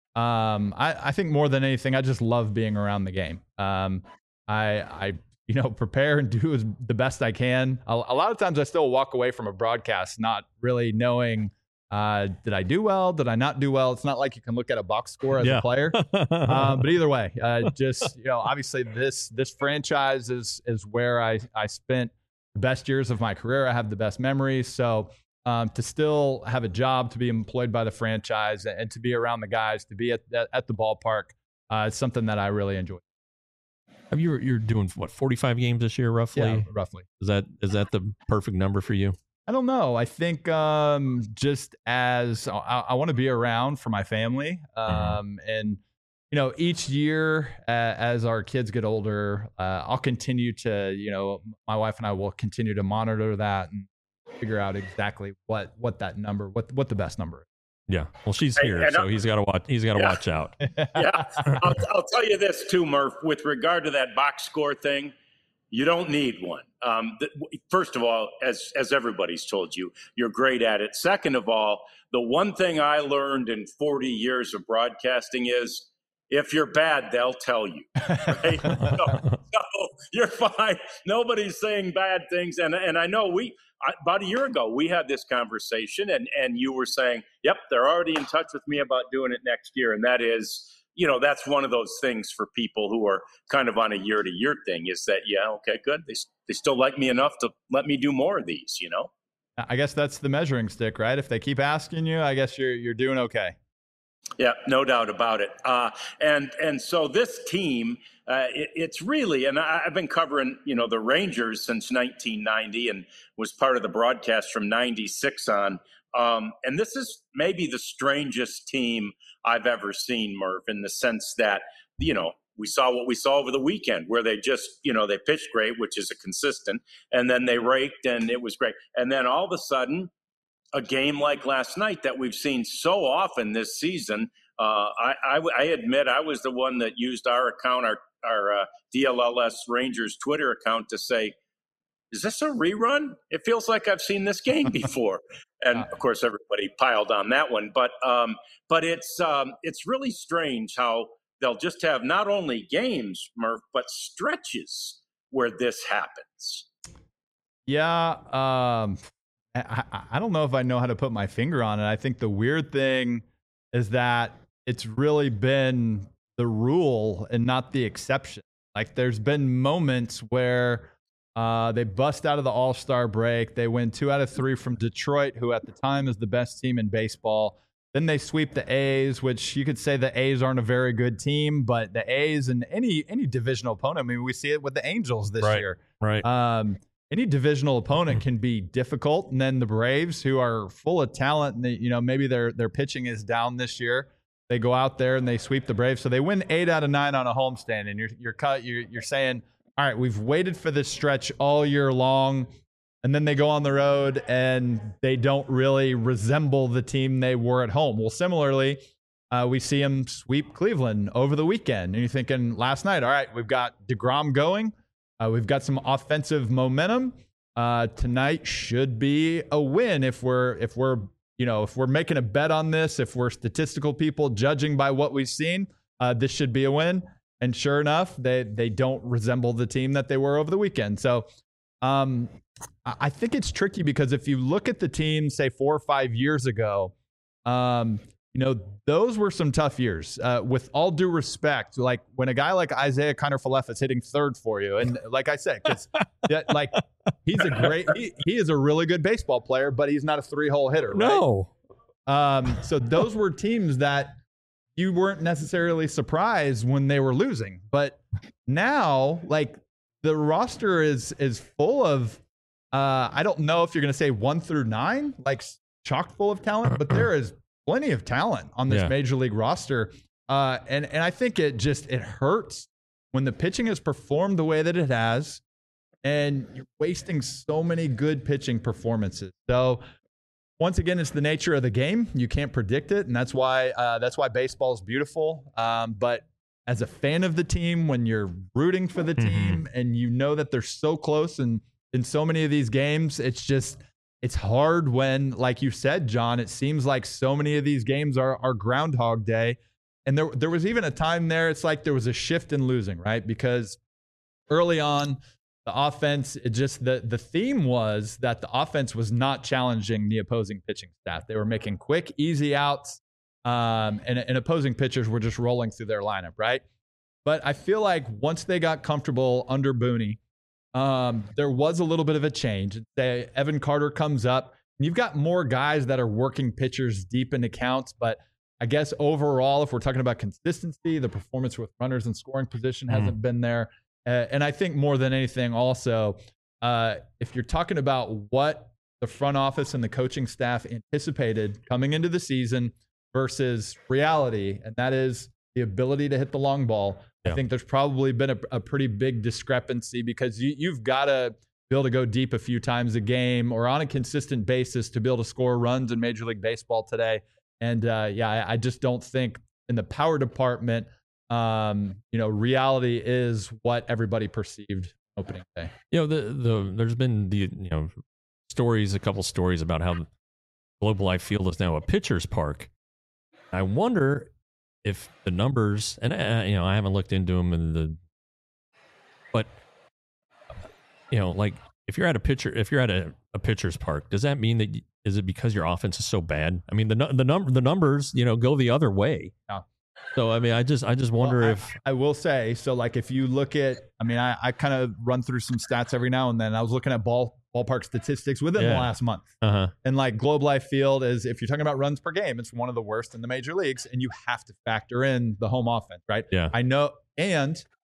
Speaker 2: Um, I, I think more than anything, I just love being around the game. Um, I, I, you know, prepare and do as the best I can. A, a lot of times I still walk away from a broadcast not really knowing, uh, did I do well? Did I not do well? It's not like you can look at a box score as
Speaker 3: yeah.
Speaker 2: a player. uh, but either way, uh, just, you know, obviously this, this franchise is, is where I, I spent the best years of my career. I have the best memories. So um, to still have a job, to be employed by the franchise, and, and to be around the guys, to be at, at, at the ballpark, uh, it's something that I really enjoy.
Speaker 3: Have you, you're doing what, forty-five games this year, roughly?
Speaker 2: Yeah, roughly.
Speaker 3: Is that is that the perfect number for you?
Speaker 2: I don't know. I think um, just as I, I want to be around for my family, um, mm-hmm. and you know, each year uh, as our kids get older, uh, I'll continue to, you know, my wife and I will continue to monitor that and figure out exactly what what that number, what what the best number is.
Speaker 3: Yeah, well, she's here, and, and so he's got to watch. He's got to yeah. watch out.
Speaker 1: Yeah, I'll, I'll tell you this too, Murph. With regard to that box score thing, you don't need one. Um, th- first of all, as as everybody's told you, you're great at it. Second of all, the one thing I learned in forty years of broadcasting is, if you're bad, they'll tell you. Right? so, so you're fine. Nobody's saying bad things, and and I know we. I, about a year ago, we had this conversation, and, and you were saying, yep, they're already in touch with me about doing it next year. And that is, you know, that's one of those things for people who are kind of on a year-to-year thing is that, yeah, okay, good. They, they still like me enough to let me do more of these, you know?
Speaker 2: I guess that's the measuring stick, right? If they keep asking you, I guess you're you're doing okay.
Speaker 1: Yeah, no doubt about it. Uh, and and so this team, uh, it, it's really, and I, I've been covering, you know, the Rangers since nineteen ninety and was part of the broadcast from ninety-six on. Um, and this is maybe the strangest team I've ever seen, Murph, in the sense that, you know, we saw what we saw over the weekend where they just, you know, they pitched great, which is a consistent, and then they raked and it was great. And then all of a sudden, a game like last night that we've seen so often this season, uh, I, I, I admit I was the one that used our account, our, our uh, D L L S Rangers Twitter account to say, is this a rerun? It feels like I've seen this game before. And of course, everybody piled on that one. But um, but it's um, it's really strange how they'll just have not only games, Murph, but stretches where this happens.
Speaker 2: Yeah. Um, I, I don't know if I know how to put my finger on it. I think the weird thing is that it's really been the rule and not the exception. Like there's been moments where uh, they bust out of the All-Star break. They win two out of three from Detroit, who at the time is the best team in baseball. Then they sweep the A's, which you could say the A's aren't a very good team, but the A's and any any divisional opponent, I mean, we see it with the Angels this
Speaker 3: right,
Speaker 2: year.
Speaker 3: Right.
Speaker 2: Um, any divisional opponent can be difficult. And then the Braves, who are full of talent, and they, you know, maybe their their pitching is down this year. They go out there and they sweep the Braves. So they win eight out of nine on a homestand. And you're you're cut. You're you're saying, all right, we've waited for this stretch all year long. And then they go on the road and they don't really resemble the team they were at home. Well, similarly, uh, we see them sweep Cleveland over the weekend. And you're thinking last night, all right, we've got DeGrom going. Uh, we've got some offensive momentum. Uh, tonight should be a win if we're if we're you know if we're making a bet on this. If we're statistical people judging by what we've seen, uh, this should be a win. And sure enough, they they don't resemble the team that they were over the weekend. So um, I think it's tricky because if you look at the team, say four or five years ago, um, you know, those were some tough years. Uh, with all due respect, like when a guy like Isaiah Kiner-Falefa is hitting third for you, and like I said, because like he's a great, he, he is a really good baseball player, but he's not a three-hole hitter. Right?
Speaker 3: No.
Speaker 2: Um, so those were teams that you weren't necessarily surprised when they were losing, but now, like the roster is is full of. Uh, I don't know if you're going to say one through nine, like chock full of talent, but there is plenty of talent on this
Speaker 3: yeah.
Speaker 2: major league roster. Uh, and, and I think it just, it hurts when the pitching has performed the way that it has and you're wasting so many good pitching performances. So once again, it's the nature of the game. You can't predict it. And that's why, uh, that's why baseball is beautiful. Um, but as a fan of the team, when you're rooting for the team mm-hmm. and you know that they're so close and in so many of these games, it's just, it's hard when, like you said, John, it seems like so many of these games are, are Groundhog Day. And there, there was even a time there, it's like there was a shift in losing, right? Because early on, the offense, it just, the, the theme was that the offense was not challenging the opposing pitching staff. They were making quick, easy outs, um, and, and opposing pitchers were just rolling through their lineup, right? But I feel like once they got comfortable under Booney, Um, there was a little bit of a change. Say Evan Carter comes up, and you've got more guys that are working pitchers deep into counts. But I guess overall, if we're talking about consistency, the performance with runners in scoring position hasn't mm. been there. Uh, and I think more than anything, also, uh, if you're talking about what the front office and the coaching staff anticipated coming into the season versus reality, and that is the ability to hit the long ball. Yeah. I think there's probably been a, a pretty big discrepancy because you, you've got to be able to go deep a few times a game or on a consistent basis to be able to score runs in Major League Baseball today. And uh, yeah, I, I just don't think in the power department, um, you know, reality is what everybody perceived opening day.
Speaker 3: You know, the the there's been the you know stories, a couple stories about how Globe Life Field is now a pitcher's park. I wonder if the numbers, and uh, you know, I haven't looked into them, and the, but you know, like if you're at a pitcher, if you're at a, a pitcher's park, does that mean that is it because your offense is so bad? I mean, the the number the numbers, you know, go the other way.
Speaker 2: Yeah.
Speaker 3: So I mean, I just I just wonder
Speaker 2: well, I,
Speaker 3: if
Speaker 2: I will say so. Like if you look at, I mean, I, I kind of run through some stats every now and then. I was looking at ball. ballpark statistics within
Speaker 3: yeah.
Speaker 2: the last month.
Speaker 3: Uh-huh.
Speaker 2: And like Globe Life Field is, if you're talking about runs per game, it's one of the worst in the major leagues, and you have to factor in the home offense, right?
Speaker 3: Yeah.
Speaker 2: I know. And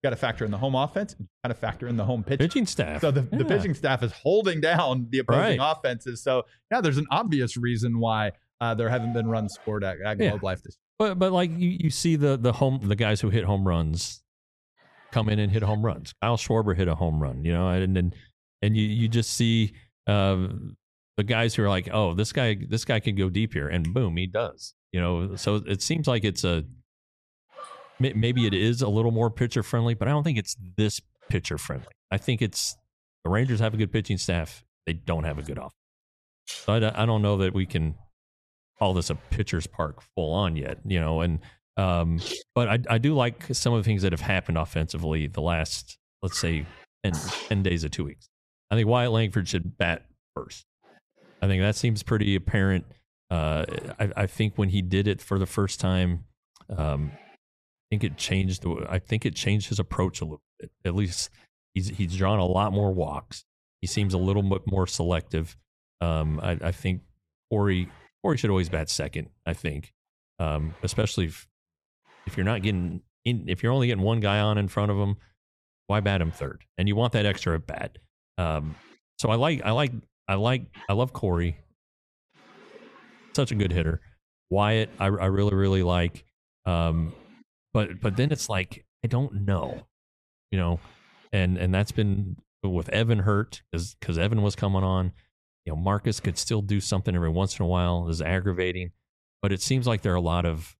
Speaker 2: got to factor in the home offense, and you got to factor in the home pitching.
Speaker 3: Pitching staff.
Speaker 2: So the,
Speaker 3: yeah.
Speaker 2: the pitching staff is holding down the opposing
Speaker 3: Right.
Speaker 2: offenses. So yeah, there's an obvious reason why uh, there haven't been runs scored at, at Globe
Speaker 3: Yeah.
Speaker 2: Life this year.
Speaker 3: But but like you, you see the the home the guys who hit home runs come in and hit home runs. Kyle Schwarber hit a home run, you know, and and and you you just see uh, the guys who are like, oh, this guy this guy can go deep here, and boom, he does. You know, so it seems like it's a maybe it is a little more pitcher friendly, but I don't think it's this pitcher friendly. I think it's the Rangers have a good pitching staff. They don't have a good offense. So I, I don't know that we can call this a pitcher's park full on yet, you know, and um, but I, I do like some of the things that have happened offensively the last, let's say, ten, ten days of two weeks. I think Wyatt Langford should bat first. I think that seems pretty apparent. Uh, I, I think when he did it for the first time, um, I think it changed. The, I think it changed his approach a little bit. At least he's he's drawn a lot more walks. He seems a little bit more selective. Um, I, I think Corey Corey should always bat second. I think, um, especially if, if you're not getting in, if you're only getting one guy on in front of him, why bat him third? And you want that extra at bat. Um, so I like I like I like I love Corey. Such a good hitter. Wyatt, I, I really really like. Um, But but then it's like, I don't know, you know, and and that's been with Evan hurt because because Evan was coming on. You know, Marcus could still do something every once in a while. Is aggravating, but it seems like there are a lot of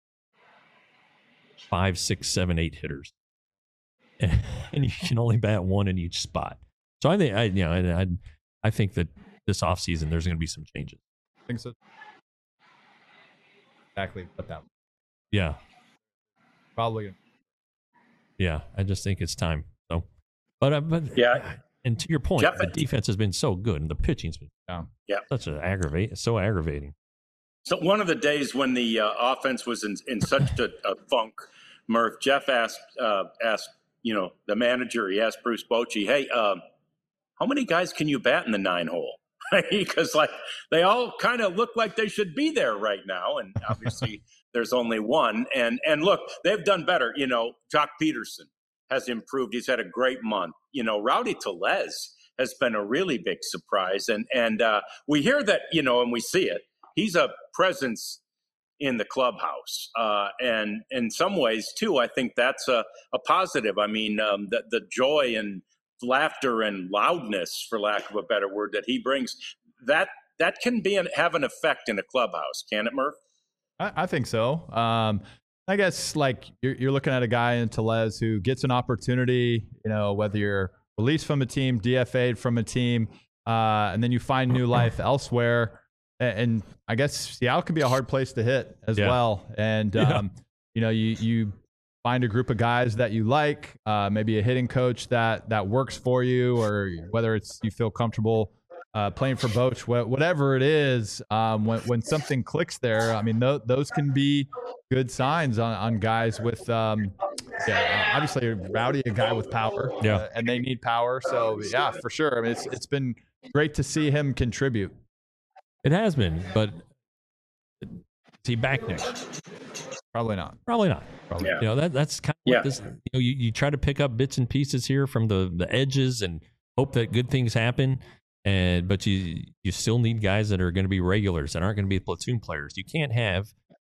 Speaker 3: five, six, seven, eight hitters, and, and you can only bat one in each spot. So I think I you know I I, I think that this offseason there's going to be some changes.
Speaker 2: I think so. Exactly what that.
Speaker 3: Yeah.
Speaker 2: Probably.
Speaker 3: Yeah, I just think it's time. So, but uh, but
Speaker 1: Yeah.
Speaker 3: and to your point,
Speaker 1: Jeff,
Speaker 3: the defense has been so good, and the pitching's been
Speaker 2: Yeah.
Speaker 1: Yeah.
Speaker 3: such an aggravate, so aggravating.
Speaker 1: So one of the days when the uh, offense was in, in such a, a funk, Murph, Jeff asked uh, asked you know the manager. He asked Bruce Bochy, "Hey, um, how many guys can you bat in the nine hole?" Because like they all kind of look like they should be there right now, and obviously there's only one. And and look, they've done better. You know, Jock Peterson has improved. He's had a great month. You know, Rowdy Tellez has been a really big surprise, and and uh, we hear that, you know, and we see it. He's a presence in the clubhouse, uh, and in some ways too, I think that's a, a positive. I mean, um, the the joy and laughter and loudness, for lack of a better word, that he brings, that that can be an, have an effect in a clubhouse, can it, Murph?
Speaker 2: I, I think so. Um, I guess like you're, you're looking at a guy in Tellez who gets an opportunity, you know, whether you're released from a team, D F A'd from a team, uh, and then you find new life elsewhere. And, and I guess Seattle can be a hard place to hit as
Speaker 3: Yeah.
Speaker 2: well. And,
Speaker 3: Yeah.
Speaker 2: um, you know, you, you find a group of guys that you like, uh, maybe a hitting coach that, that works for you, or whether it's you feel comfortable uh, playing for Boch, wh- whatever it is, um, when, when something clicks there, I mean, th- those can be good signs on, on guys with, um, yeah, obviously Rowdy, a guy with power,
Speaker 3: Yeah.
Speaker 2: uh, and they need power. So yeah, for sure. I mean, it's, it's been great to see him contribute.
Speaker 3: It has been, but is he back next?
Speaker 2: Probably not.
Speaker 3: Probably not.
Speaker 2: Probably.
Speaker 1: Yeah.
Speaker 3: You know, that that's kind of
Speaker 1: Yeah.
Speaker 3: what this. You know, you, you try to pick up bits and pieces here from the the edges and hope that good things happen. And but you you still need guys that are going to be regulars that aren't going to be platoon players. You can't have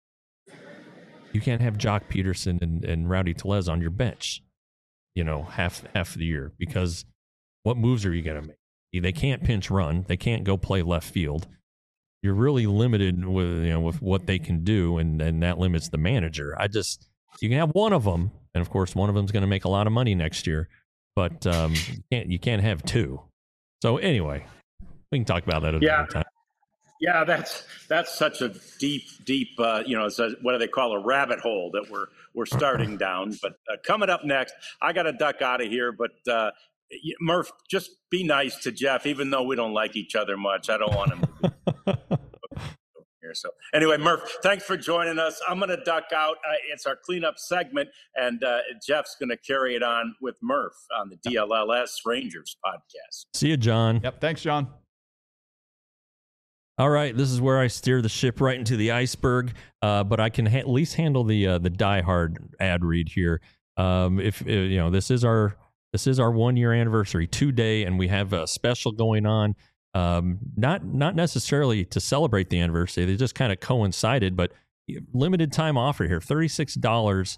Speaker 3: you can't have Jock Peterson and, and Rowdy Tellez on your bench, you know, half half the year, because what moves are you going to make? They can't pinch run. They can't go play left field. You're really limited with you know with what they can do, and, and that limits the manager. I just you can have one of them, and of course one of them is going to make a lot of money next year, but um, you can't you can't have two. So anyway, we can talk about that another
Speaker 1: Yeah.
Speaker 3: time.
Speaker 1: Yeah, that's that's such a deep, deep, uh, you know, it's a, what do they call a rabbit hole that we're we're starting down. But uh, coming up next, I got to duck out of here. But uh, Murph, just be nice to Jeff, even though we don't like each other much. I don't want him to be here. So anyway, Murph, thanks for joining us. I'm going to duck out. Uh, it's our cleanup segment, and uh, Jeff's going to carry it on with Murph on the D L L S Rangers podcast.
Speaker 3: See you, John.
Speaker 2: Yep. Thanks, John.
Speaker 3: All right, this is where I steer the ship right into the iceberg, uh, but I can ha- at least handle the uh, the diehard ad read here. Um, if uh, you know, this is our this is our one year anniversary today, and we have a special going on. Um, not not necessarily to celebrate the anniversary; they just kind of coincided. But limited time offer here: thirty-six dollars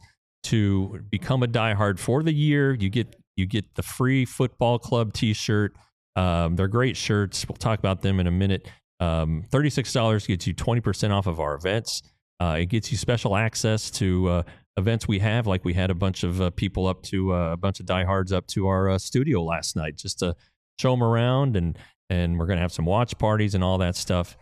Speaker 3: to become a diehard for the year. You get you get the free football club T-shirt. Um, they're great shirts. We'll talk about them in a minute. Um, thirty-six dollars gets you twenty percent off of our events. Uh, it gets you special access to uh, events we have, like we had a bunch of uh, people up to uh, a bunch of diehards up to our uh, studio last night just to show them around, and and we're gonna have some watch parties and all that stuff.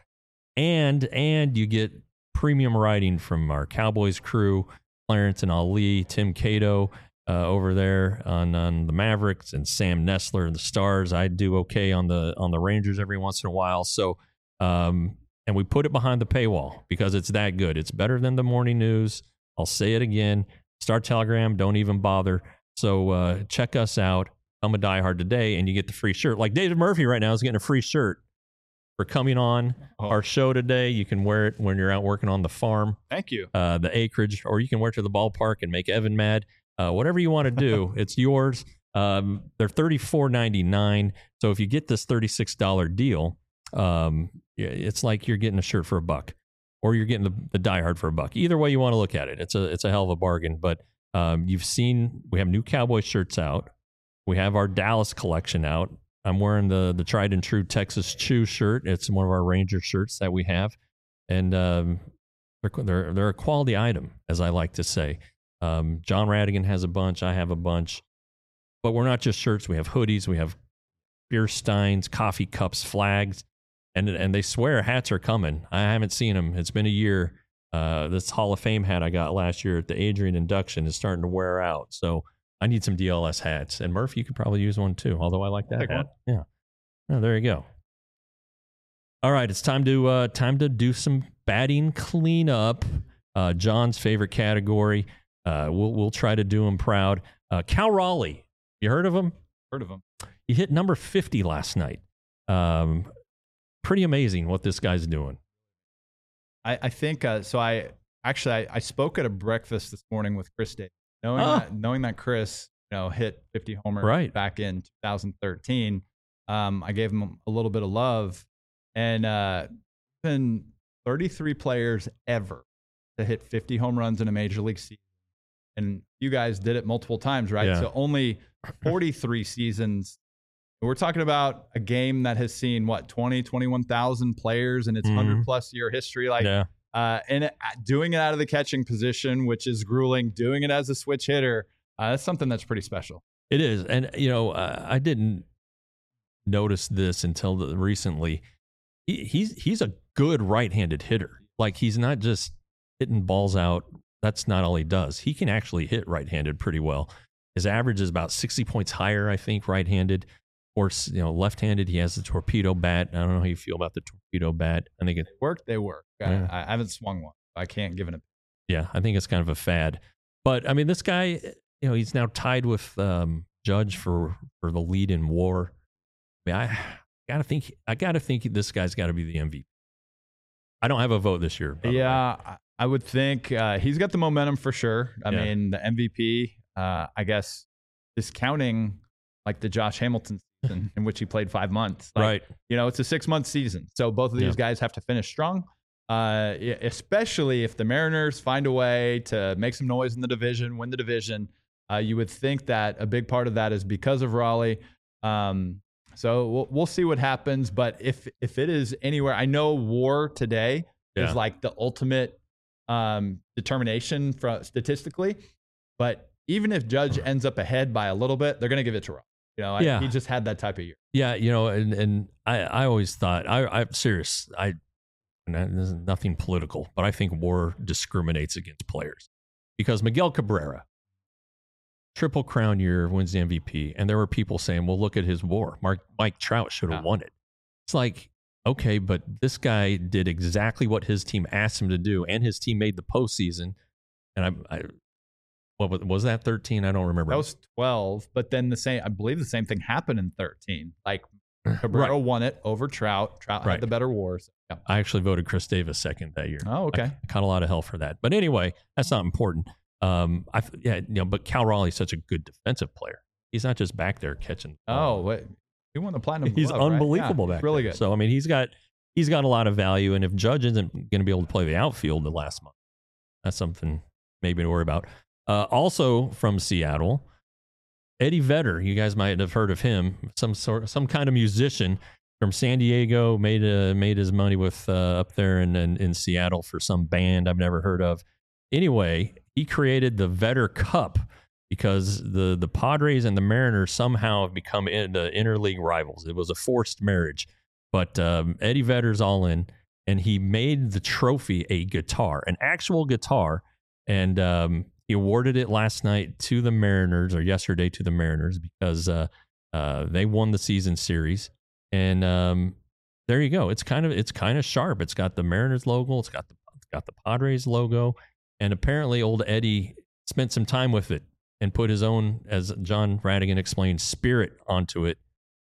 Speaker 3: And and you get premium writing from our Cowboys crew, Clarence and Ali, Tim Cato uh, over there on, on the Mavericks, and Sam Nestler and the Stars. I do okay on the on the Rangers every once in a while. So, um, and we put it behind the paywall because it's that good. It's better than the morning news. I'll say it again. Star Telegram, don't even bother. So uh, check us out. I'm a diehard today, and you get the free shirt. Like David Murphy right now is getting a free shirt for coming on oh. our show today. You can wear it when you're out working on the farm.
Speaker 2: Thank you.
Speaker 3: Uh, the acreage, or you can wear it to the ballpark and make Evan mad. Uh, whatever you want to do, it's yours. Um, they're thirty-four ninety-nine. So if you get this thirty-six dollars deal, um, it's like you're getting a shirt for a buck, or you're getting the, the diehard for a buck. Either way you want to look at it, it's a it's a hell of a bargain. But um, you've seen we have new Cowboy shirts out. We have our Dallas collection out. I'm wearing the the tried and true Texas Chew shirt. It's one of our Ranger shirts that we have, and um, they're, they're they're a quality item, as I like to say. Um, John Radigan has a bunch. I have a bunch, but we're not just shirts. We have hoodies. We have beer steins, coffee cups, flags, and and they swear hats are coming. I haven't seen them. It's been a year. Uh, this Hall of Fame hat I got last year at the Adrian induction is starting to wear out. So I need some D L S hats. And Murph, you could probably use one too, although I like that
Speaker 2: Take
Speaker 3: hat.
Speaker 2: one.
Speaker 3: Yeah. Oh, there you go. All right, it's time to uh, time to do some batting cleanup. Uh, John's favorite category. Uh, we'll we'll try to do him proud. Uh, Cal Raleigh, you heard of him?
Speaker 2: Heard of him.
Speaker 3: He hit number fifty last night. Um, pretty amazing what this guy's doing.
Speaker 2: I, I think uh, so. I actually I, I spoke at a breakfast this morning with Chris Davis. Knowing
Speaker 3: Oh.
Speaker 2: that, knowing that Chris, you know, hit fifty homers
Speaker 3: Right.
Speaker 2: back in two thousand thirteen, um, I gave him a little bit of love, and uh, been thirty-three players ever to hit fifty home runs in a major league season, and you guys did it multiple times, right?
Speaker 3: Yeah.
Speaker 2: So only forty-three seasons. We're talking about a game that has seen what twenty, twenty-one thousand players in its
Speaker 3: Mhm.
Speaker 2: one hundred plus year history, like.
Speaker 3: Yeah.
Speaker 2: Uh, and it, doing it out of the catching position, which is grueling, doing it as a switch hitter, uh, that's something that's pretty special.
Speaker 3: It is. And, you know, uh, I didn't notice this until the, recently. He, he's he's a good right-handed hitter. Like, he's not just hitting balls out. That's not all he does. He can actually hit right-handed pretty well. His average is about sixty points higher, I think, right-handed. Or, you know, left-handed, he has the torpedo bat. I don't know how you feel about the torpedo bat. I think it
Speaker 2: Work, they work. I,
Speaker 3: Yeah.
Speaker 2: I haven't swung one. I can't give it a.
Speaker 3: Yeah, I think it's kind of a fad. But I mean, this guy, you know, he's now tied with um, Judge for for the lead in WAR. I mean, I gotta think. I gotta think this guy's got to be the M V P. I don't have a vote this year. by the way.
Speaker 2: Yeah, I- I would think uh, he's got the momentum for sure. I
Speaker 3: Yeah.
Speaker 2: mean, the M V P, uh, I guess, discounting like the Josh Hamilton season in which he played five months. Like,
Speaker 3: Right.
Speaker 2: You know, it's a six month season. So both of these
Speaker 3: Yeah.
Speaker 2: guys have to finish strong, uh, e- especially if the Mariners find a way to make some noise in the division, win the division. Uh, you would think that a big part of that is because of Raleigh. Um, so we'll, we'll see what happens. But if if it is anywhere, I know WAR today
Speaker 3: Yeah.
Speaker 2: is like the ultimate um, determination for, statistically. But even if Judge ends up ahead by a little bit, they're going to give it to Raleigh. You know, I,
Speaker 3: Yeah.
Speaker 2: he just had that type of year.
Speaker 3: Yeah, you know, and and I I always thought I I'm serious. I and that- this is nothing political, but I think WAR discriminates against players because Miguel Cabrera, triple crown year, wins the M V P, and there were people saying, "Well, look at his WAR. Mark Mike Trout should have
Speaker 2: Yeah.
Speaker 3: won it." It's like, okay, but this guy did exactly what his team asked him to do, and his team made the postseason. And I, I what was, was that thirteen? I don't remember.
Speaker 2: That was twelve, but then the same, I believe the same thing happened in thirteen. Like Cabrera
Speaker 3: Right.
Speaker 2: won it over Trout. Trout
Speaker 3: Right.
Speaker 2: had the better wars. Yeah.
Speaker 3: I actually voted Chris Davis second that year.
Speaker 2: Oh, okay.
Speaker 3: I, I caught a lot of hell for that. But anyway, that's not important. Um, I yeah, you know, but Cal Raleigh's such a good defensive player. He's not just back there catching. The ball.
Speaker 2: Oh, wait. He won the platinum.
Speaker 3: He's
Speaker 2: glove,
Speaker 3: unbelievable
Speaker 2: right? Yeah,
Speaker 3: back
Speaker 2: really
Speaker 3: there.
Speaker 2: good.
Speaker 3: So I mean, he's got he's got a lot of value. And if Judge isn't going to be able to play the outfield the last month, that's something maybe to worry about. Uh, also from Seattle, Eddie Vedder. You guys might have heard of him. Some sort, some kind of musician from San Diego, made a, made his money with uh, up there in, in in Seattle for some band I've never heard of. Anyway, he created the Vedder Cup because the the Padres and the Mariners somehow have become in the interleague rivals. It was a forced marriage, but um, Eddie Vedder's all in, and he made the trophy a guitar, an actual guitar, and um, he awarded it last night to the Mariners, or yesterday to the Mariners, because uh, uh, they won the season series. And um, there you go. It's kind of it's kind of sharp. It's got the Mariners logo. It's got the it's got the Padres logo. And apparently, old Eddie spent some time with it and put his own, as John Radigan explained, spirit onto it.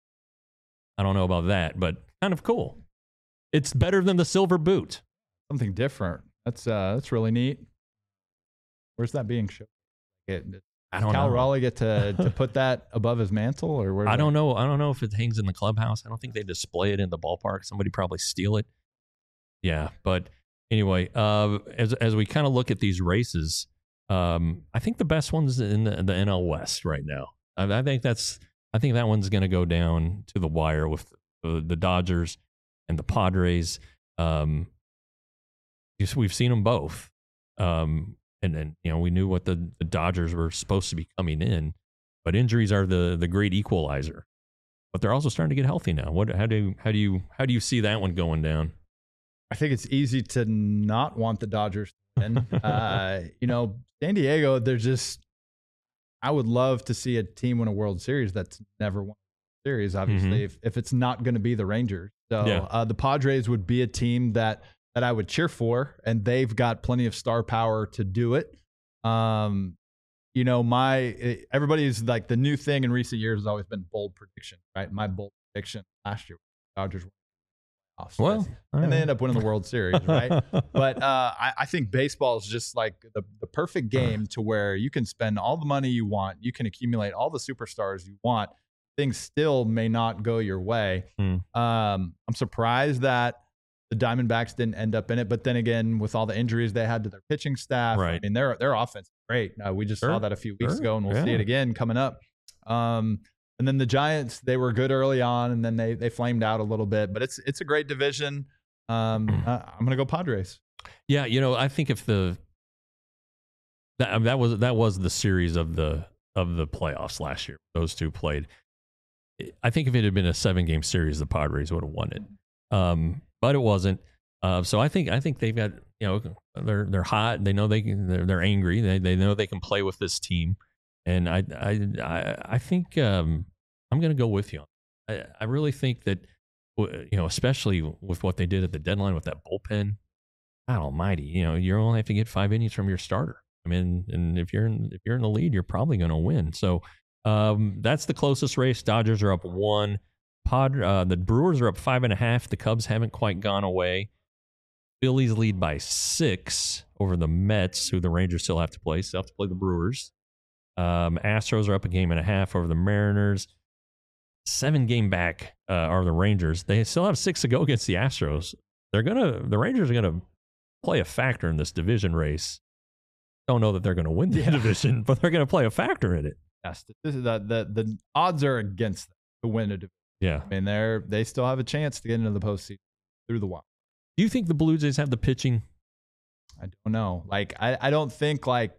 Speaker 3: I don't know about that, but kind of cool. It's better than the silver boot.
Speaker 2: Something different. That's uh, that's really neat. Where's that being shown? It,
Speaker 3: I don't
Speaker 2: Cal
Speaker 3: know.
Speaker 2: Raleigh get to, to put that above his mantle, or where?
Speaker 3: I don't know. I don't know if it hangs in the clubhouse. I don't think they display it in the ballpark. Somebody probably steal it. Yeah, but anyway, uh, as as we kind of look at these races, um, I think the best one's in the, the N L West right now. I, I think that's. I think that one's going to go down to the wire with the, the Dodgers and the Padres. Um, we've seen them both. Um, And then, you know, we knew what the, the Dodgers were supposed to be coming in, but injuries are the the great equalizer. But they're also starting to get healthy now. What? How do how do you how do you see that one going down?
Speaker 2: I think it's easy to not want the Dodgers to win. uh, you know, San Diego, they're just. I would love to see a team win a World Series that's never won a World Series. Obviously,
Speaker 3: Mm-hmm.
Speaker 2: if if it's not going to be the Rangers, so
Speaker 3: Yeah.
Speaker 2: uh, the Padres would be a team that. that I would cheer for, and they've got plenty of star power to do it. Um, you know, my everybody's like the new thing in recent years has always been bold prediction, right? My bold prediction last year, Dodgers won the playoffs.
Speaker 3: Well,
Speaker 2: and they end up winning the World Series, right? But uh, I, I think baseball is just like the, the perfect game to where you can spend all the money you want, you can accumulate all the superstars you want. Things still may not go your way.
Speaker 3: Hmm.
Speaker 2: Um, I'm surprised that the Diamondbacks didn't end up in it, but then again, with all the injuries they had to their pitching staff,
Speaker 3: Right.
Speaker 2: I mean, their their offense is great. Uh, we just
Speaker 3: Sure.
Speaker 2: saw that a few weeks
Speaker 3: Sure.
Speaker 2: ago, and we'll
Speaker 3: Yeah.
Speaker 2: see it again coming up. Um, and then the Giants, they were good early on, and then they they flamed out a little bit. But it's it's a great division. Um, uh, I'm gonna go Padres.
Speaker 3: Yeah, you know, I think if the that that was that was the series of the of the playoffs last year. Those two played. I think if it had been a seven game series, the Padres would have won it. Um, but it wasn't. Uh, so I think I think they've got, you know, they're they're hot. They know they can. They're, they're angry. They they know they can play with this team. And I I I, I think um, I'm going to go with you. I, I really think that, you know, especially with what they did at the deadline with that bullpen. God Almighty, you know, you only have to get five innings from your starter. I mean, and if you're in, if you're in the lead, you're probably going to win. So um, that's the closest race. Dodgers are up one. Pod, uh, the Brewers are up five and a half. The Cubs haven't quite gone away. Phillies lead by six over the Mets, who the Rangers still have to play. Still have to play the Brewers. Um, Astros are up a game and a half over the Mariners. Seven game back uh, are the Rangers. They still have six to go against the Astros. They're gonna. The Rangers are gonna play a factor in this division race. Don't know that they're gonna win the
Speaker 2: Yeah.
Speaker 3: division, but they're gonna play a factor in it.
Speaker 2: Yes, this is the the the odds are against them to win a division.
Speaker 3: Yeah.
Speaker 2: I mean, they're they still have a chance to get into the postseason through the wild.
Speaker 3: Do you think the Blue Jays have the pitching?
Speaker 2: I don't know. Like, I, I don't think like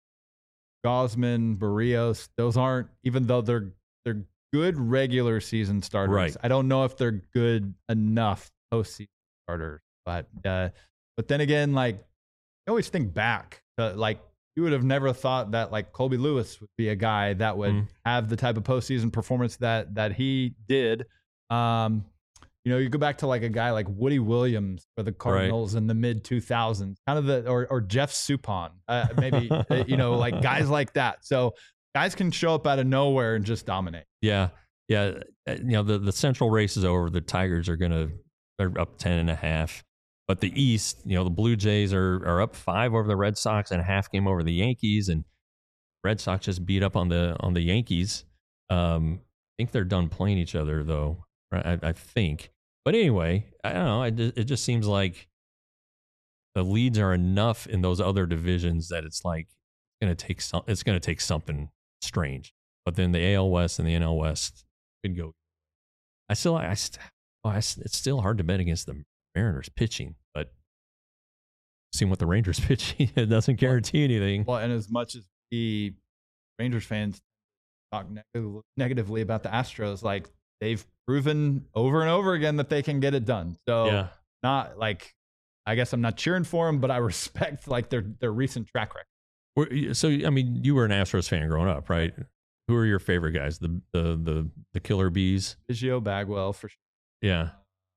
Speaker 2: Gosman, Barrios, those aren't, even though they're they're good regular season starters.
Speaker 3: Right.
Speaker 2: I don't know if they're good enough postseason starters. But uh, but then again, like I always think back, to, like you would have never thought that like Colby Lewis would be a guy that would
Speaker 3: Mm.
Speaker 2: have the type of postseason performance that that he did. Um, You know, you go back to like a guy like Woody Williams for the Cardinals in the mid two thousands, kind of the, or, or Jeff Suppan, uh, maybe, uh, you know, like guys like that. So guys can show up out of nowhere and just dominate.
Speaker 3: Yeah. Yeah. Uh, You know, the, the central race is over. The Tigers are going to, they're up ten and a half. But the East, you know, the Blue Jays are are up five over the Red Sox and a half game over the Yankees, and Red Sox just beat up on the on the Yankees. Um, I think they're done playing each other though. I, I think. But anyway, I don't know. It, it just seems like the leads are enough in those other divisions that it's like it's gonna take some. It's gonna take something strange. But then the A L West and the N L West could go. I still, I, st- oh, I, it's still hard to bet against the Mariners pitching, but seeing what the Rangers pitching, it doesn't guarantee anything.
Speaker 2: Well, and as much as the Rangers fans talk neg- negatively about the Astros, like they've proven over and over again that they can get it done. So
Speaker 3: Yeah.
Speaker 2: not like, I guess I'm not cheering for them, but I respect like their their recent track record.
Speaker 3: Were- So, I mean, you were an Astros fan growing up, right? Who are your favorite guys? The the the the Killer Bees?
Speaker 2: Biggio, Bagwell, for sure.
Speaker 3: Yeah,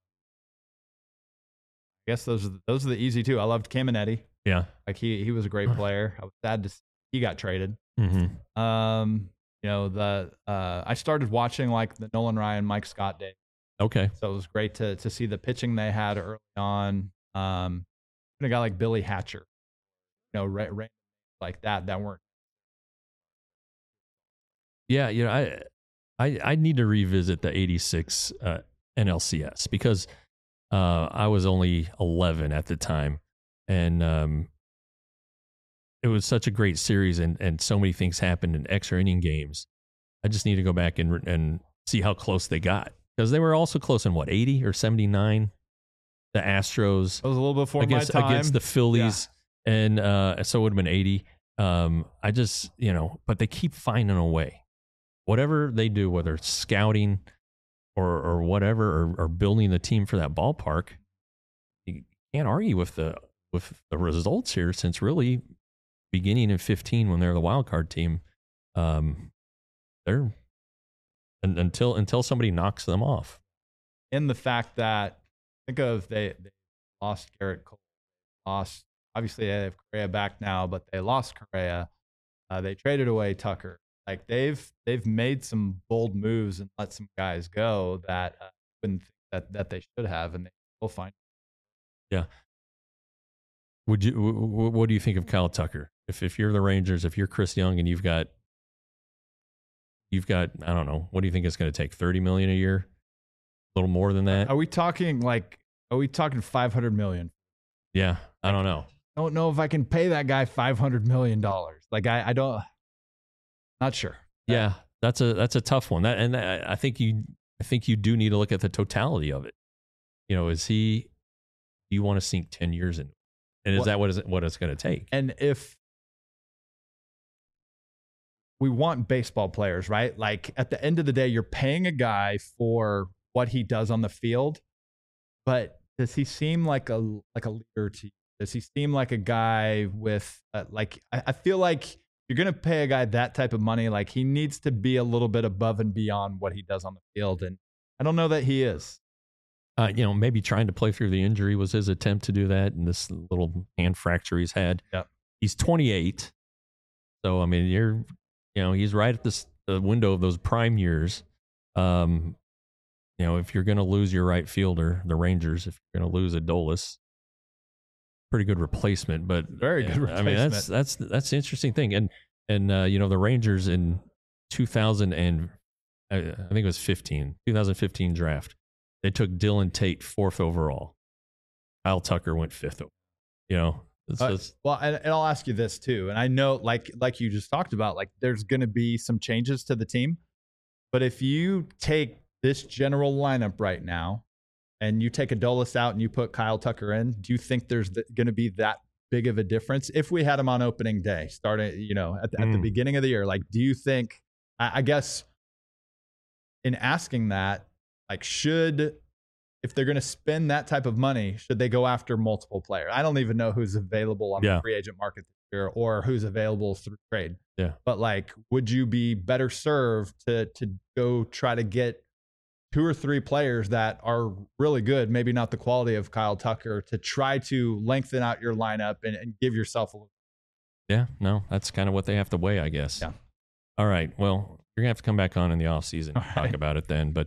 Speaker 2: I guess those are the, those are the easy two. I loved Caminetti.
Speaker 3: yeah.
Speaker 2: Like he he was a great player. I was sad to see he got traded.
Speaker 3: Mm-hmm.
Speaker 2: Um, you know the uh, I started watching like the Nolan Ryan, Mike Scott days.
Speaker 3: Okay.
Speaker 2: So it was great to to see the pitching they had early on. Um, even a guy like Billy Hatcher, you know, ra- ra- like that that weren't.
Speaker 3: Yeah, you know, I I I need to revisit the eighty-six uh, N L C S because uh, I was only eleven at the time, and um, it was such a great series, and and so many things happened in extra inning games. I just need to go back and and see how close they got because they were also close in what eighty or seventy-nine. The Astros
Speaker 2: It was a little before
Speaker 3: against
Speaker 2: my time.
Speaker 3: against the Phillies, and uh, so it would have been eighty. Um, I just you know, but they keep finding a way. Whatever they do, whether it's scouting or or whatever, or, or building the team for that ballpark, you can't argue with the with the results here. Since really beginning in fifteen, when they're the wild card team, um, they're and, until until somebody knocks them off.
Speaker 2: In the fact that think of they, they lost Garrett Cole, lost obviously they have Correa back now, but they lost Correa. Uh, they traded away Tucker. Like they've they've made some bold moves and let some guys go that uh, wouldn't think that that they should have, and they will find.
Speaker 3: Yeah. Would you? W- w- what do you think of Kyle Tucker? If if you're the Rangers, if you're Chris Young, and you've got you've got I don't know, what do you think it's going to take? Thirty million a year, a little more than that?
Speaker 2: Are we talking like? Are we talking five hundred million?
Speaker 3: Yeah, I don't know.
Speaker 2: I don't know if I can pay that guy five hundred million dollars. Like I, I don't. Not sure.
Speaker 3: Yeah, that's a that's a tough one. That and I I think you I think you do need to look at the totality of it. You know, is he? Do you want to sink ten years in? And is
Speaker 2: What-
Speaker 3: that what is it, what it's going to take?
Speaker 2: And if we want baseball players, right? Like at the end of the day, you're paying a guy for what he does on the field, but does he seem like a like a leader to you? Does he seem like a guy with uh, like I, I feel like you're gonna pay a guy that type of money, like he needs to be a little bit above and beyond what he does on the field, and I don't know that he is.
Speaker 3: Uh, you know, maybe trying to play through the injury was his attempt to do that, and this little hand fracture he's had.
Speaker 2: Yep.
Speaker 3: He's twenty-eight, so I mean, you're, you know, he's right at this the window of those prime years. Um, you know, if you're going to lose your right fielder, the Rangers, if you're going to lose Adolis, pretty good replacement, but
Speaker 2: Very good
Speaker 3: yeah, I mean, that's that's that's the interesting thing, and and uh, you know, the Rangers in two thousand and I, I think it was fifteen, twenty fifteen draft. They took Dylan Tate fourth overall. Kyle Tucker went fifth. You know, it's,
Speaker 2: Uh,
Speaker 3: it's,
Speaker 2: well, and, and I'll ask you this too. And I know, like like you just talked about, like there's going to be some changes to the team. But if you take this general lineup right now, and you take Adolis out and you put Kyle Tucker in, do you think there's th- going to be that big of a difference if we had him on opening day, starting, you know, at the, at the
Speaker 3: Mm.
Speaker 2: beginning of the year? Like, do you think? I, I guess in asking that, like, should if they're going to spend that type of money, should they go after multiple players? I don't even know who's available on
Speaker 3: Yeah.
Speaker 2: the free agent market this year or who's available through trade.
Speaker 3: Yeah.
Speaker 2: But like, would you be better served to to go try to get two or three players that are really good, maybe not the quality of Kyle Tucker, to try to lengthen out your lineup and, and give yourself a little?
Speaker 3: yeah, no, that's kind of what they have to weigh, I guess.
Speaker 2: Yeah.
Speaker 3: All right. Well, you're gonna have to come back on in the off season
Speaker 2: All
Speaker 3: and talk
Speaker 2: right.
Speaker 3: about it then. But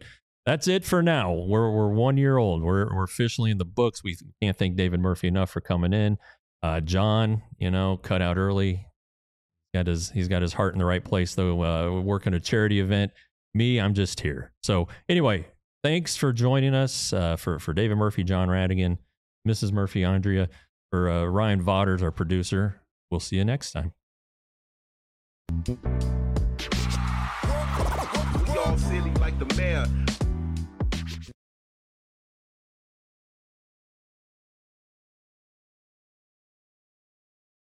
Speaker 3: that's it for now. We're we're one year old. We're we're officially in the books. We can't thank David Murphy enough for coming in. Uh, John, you know, cut out early. Got his he's got his heart in the right place though. Uh, working a charity event. Me, I'm just here. So anyway, thanks for joining us. Uh, for for David Murphy, John Radigan, Missus Murphy, Andrea, for uh, Ryan Vodders, our producer. We'll see you next time.
Speaker 4: Y'all silly like the mayor.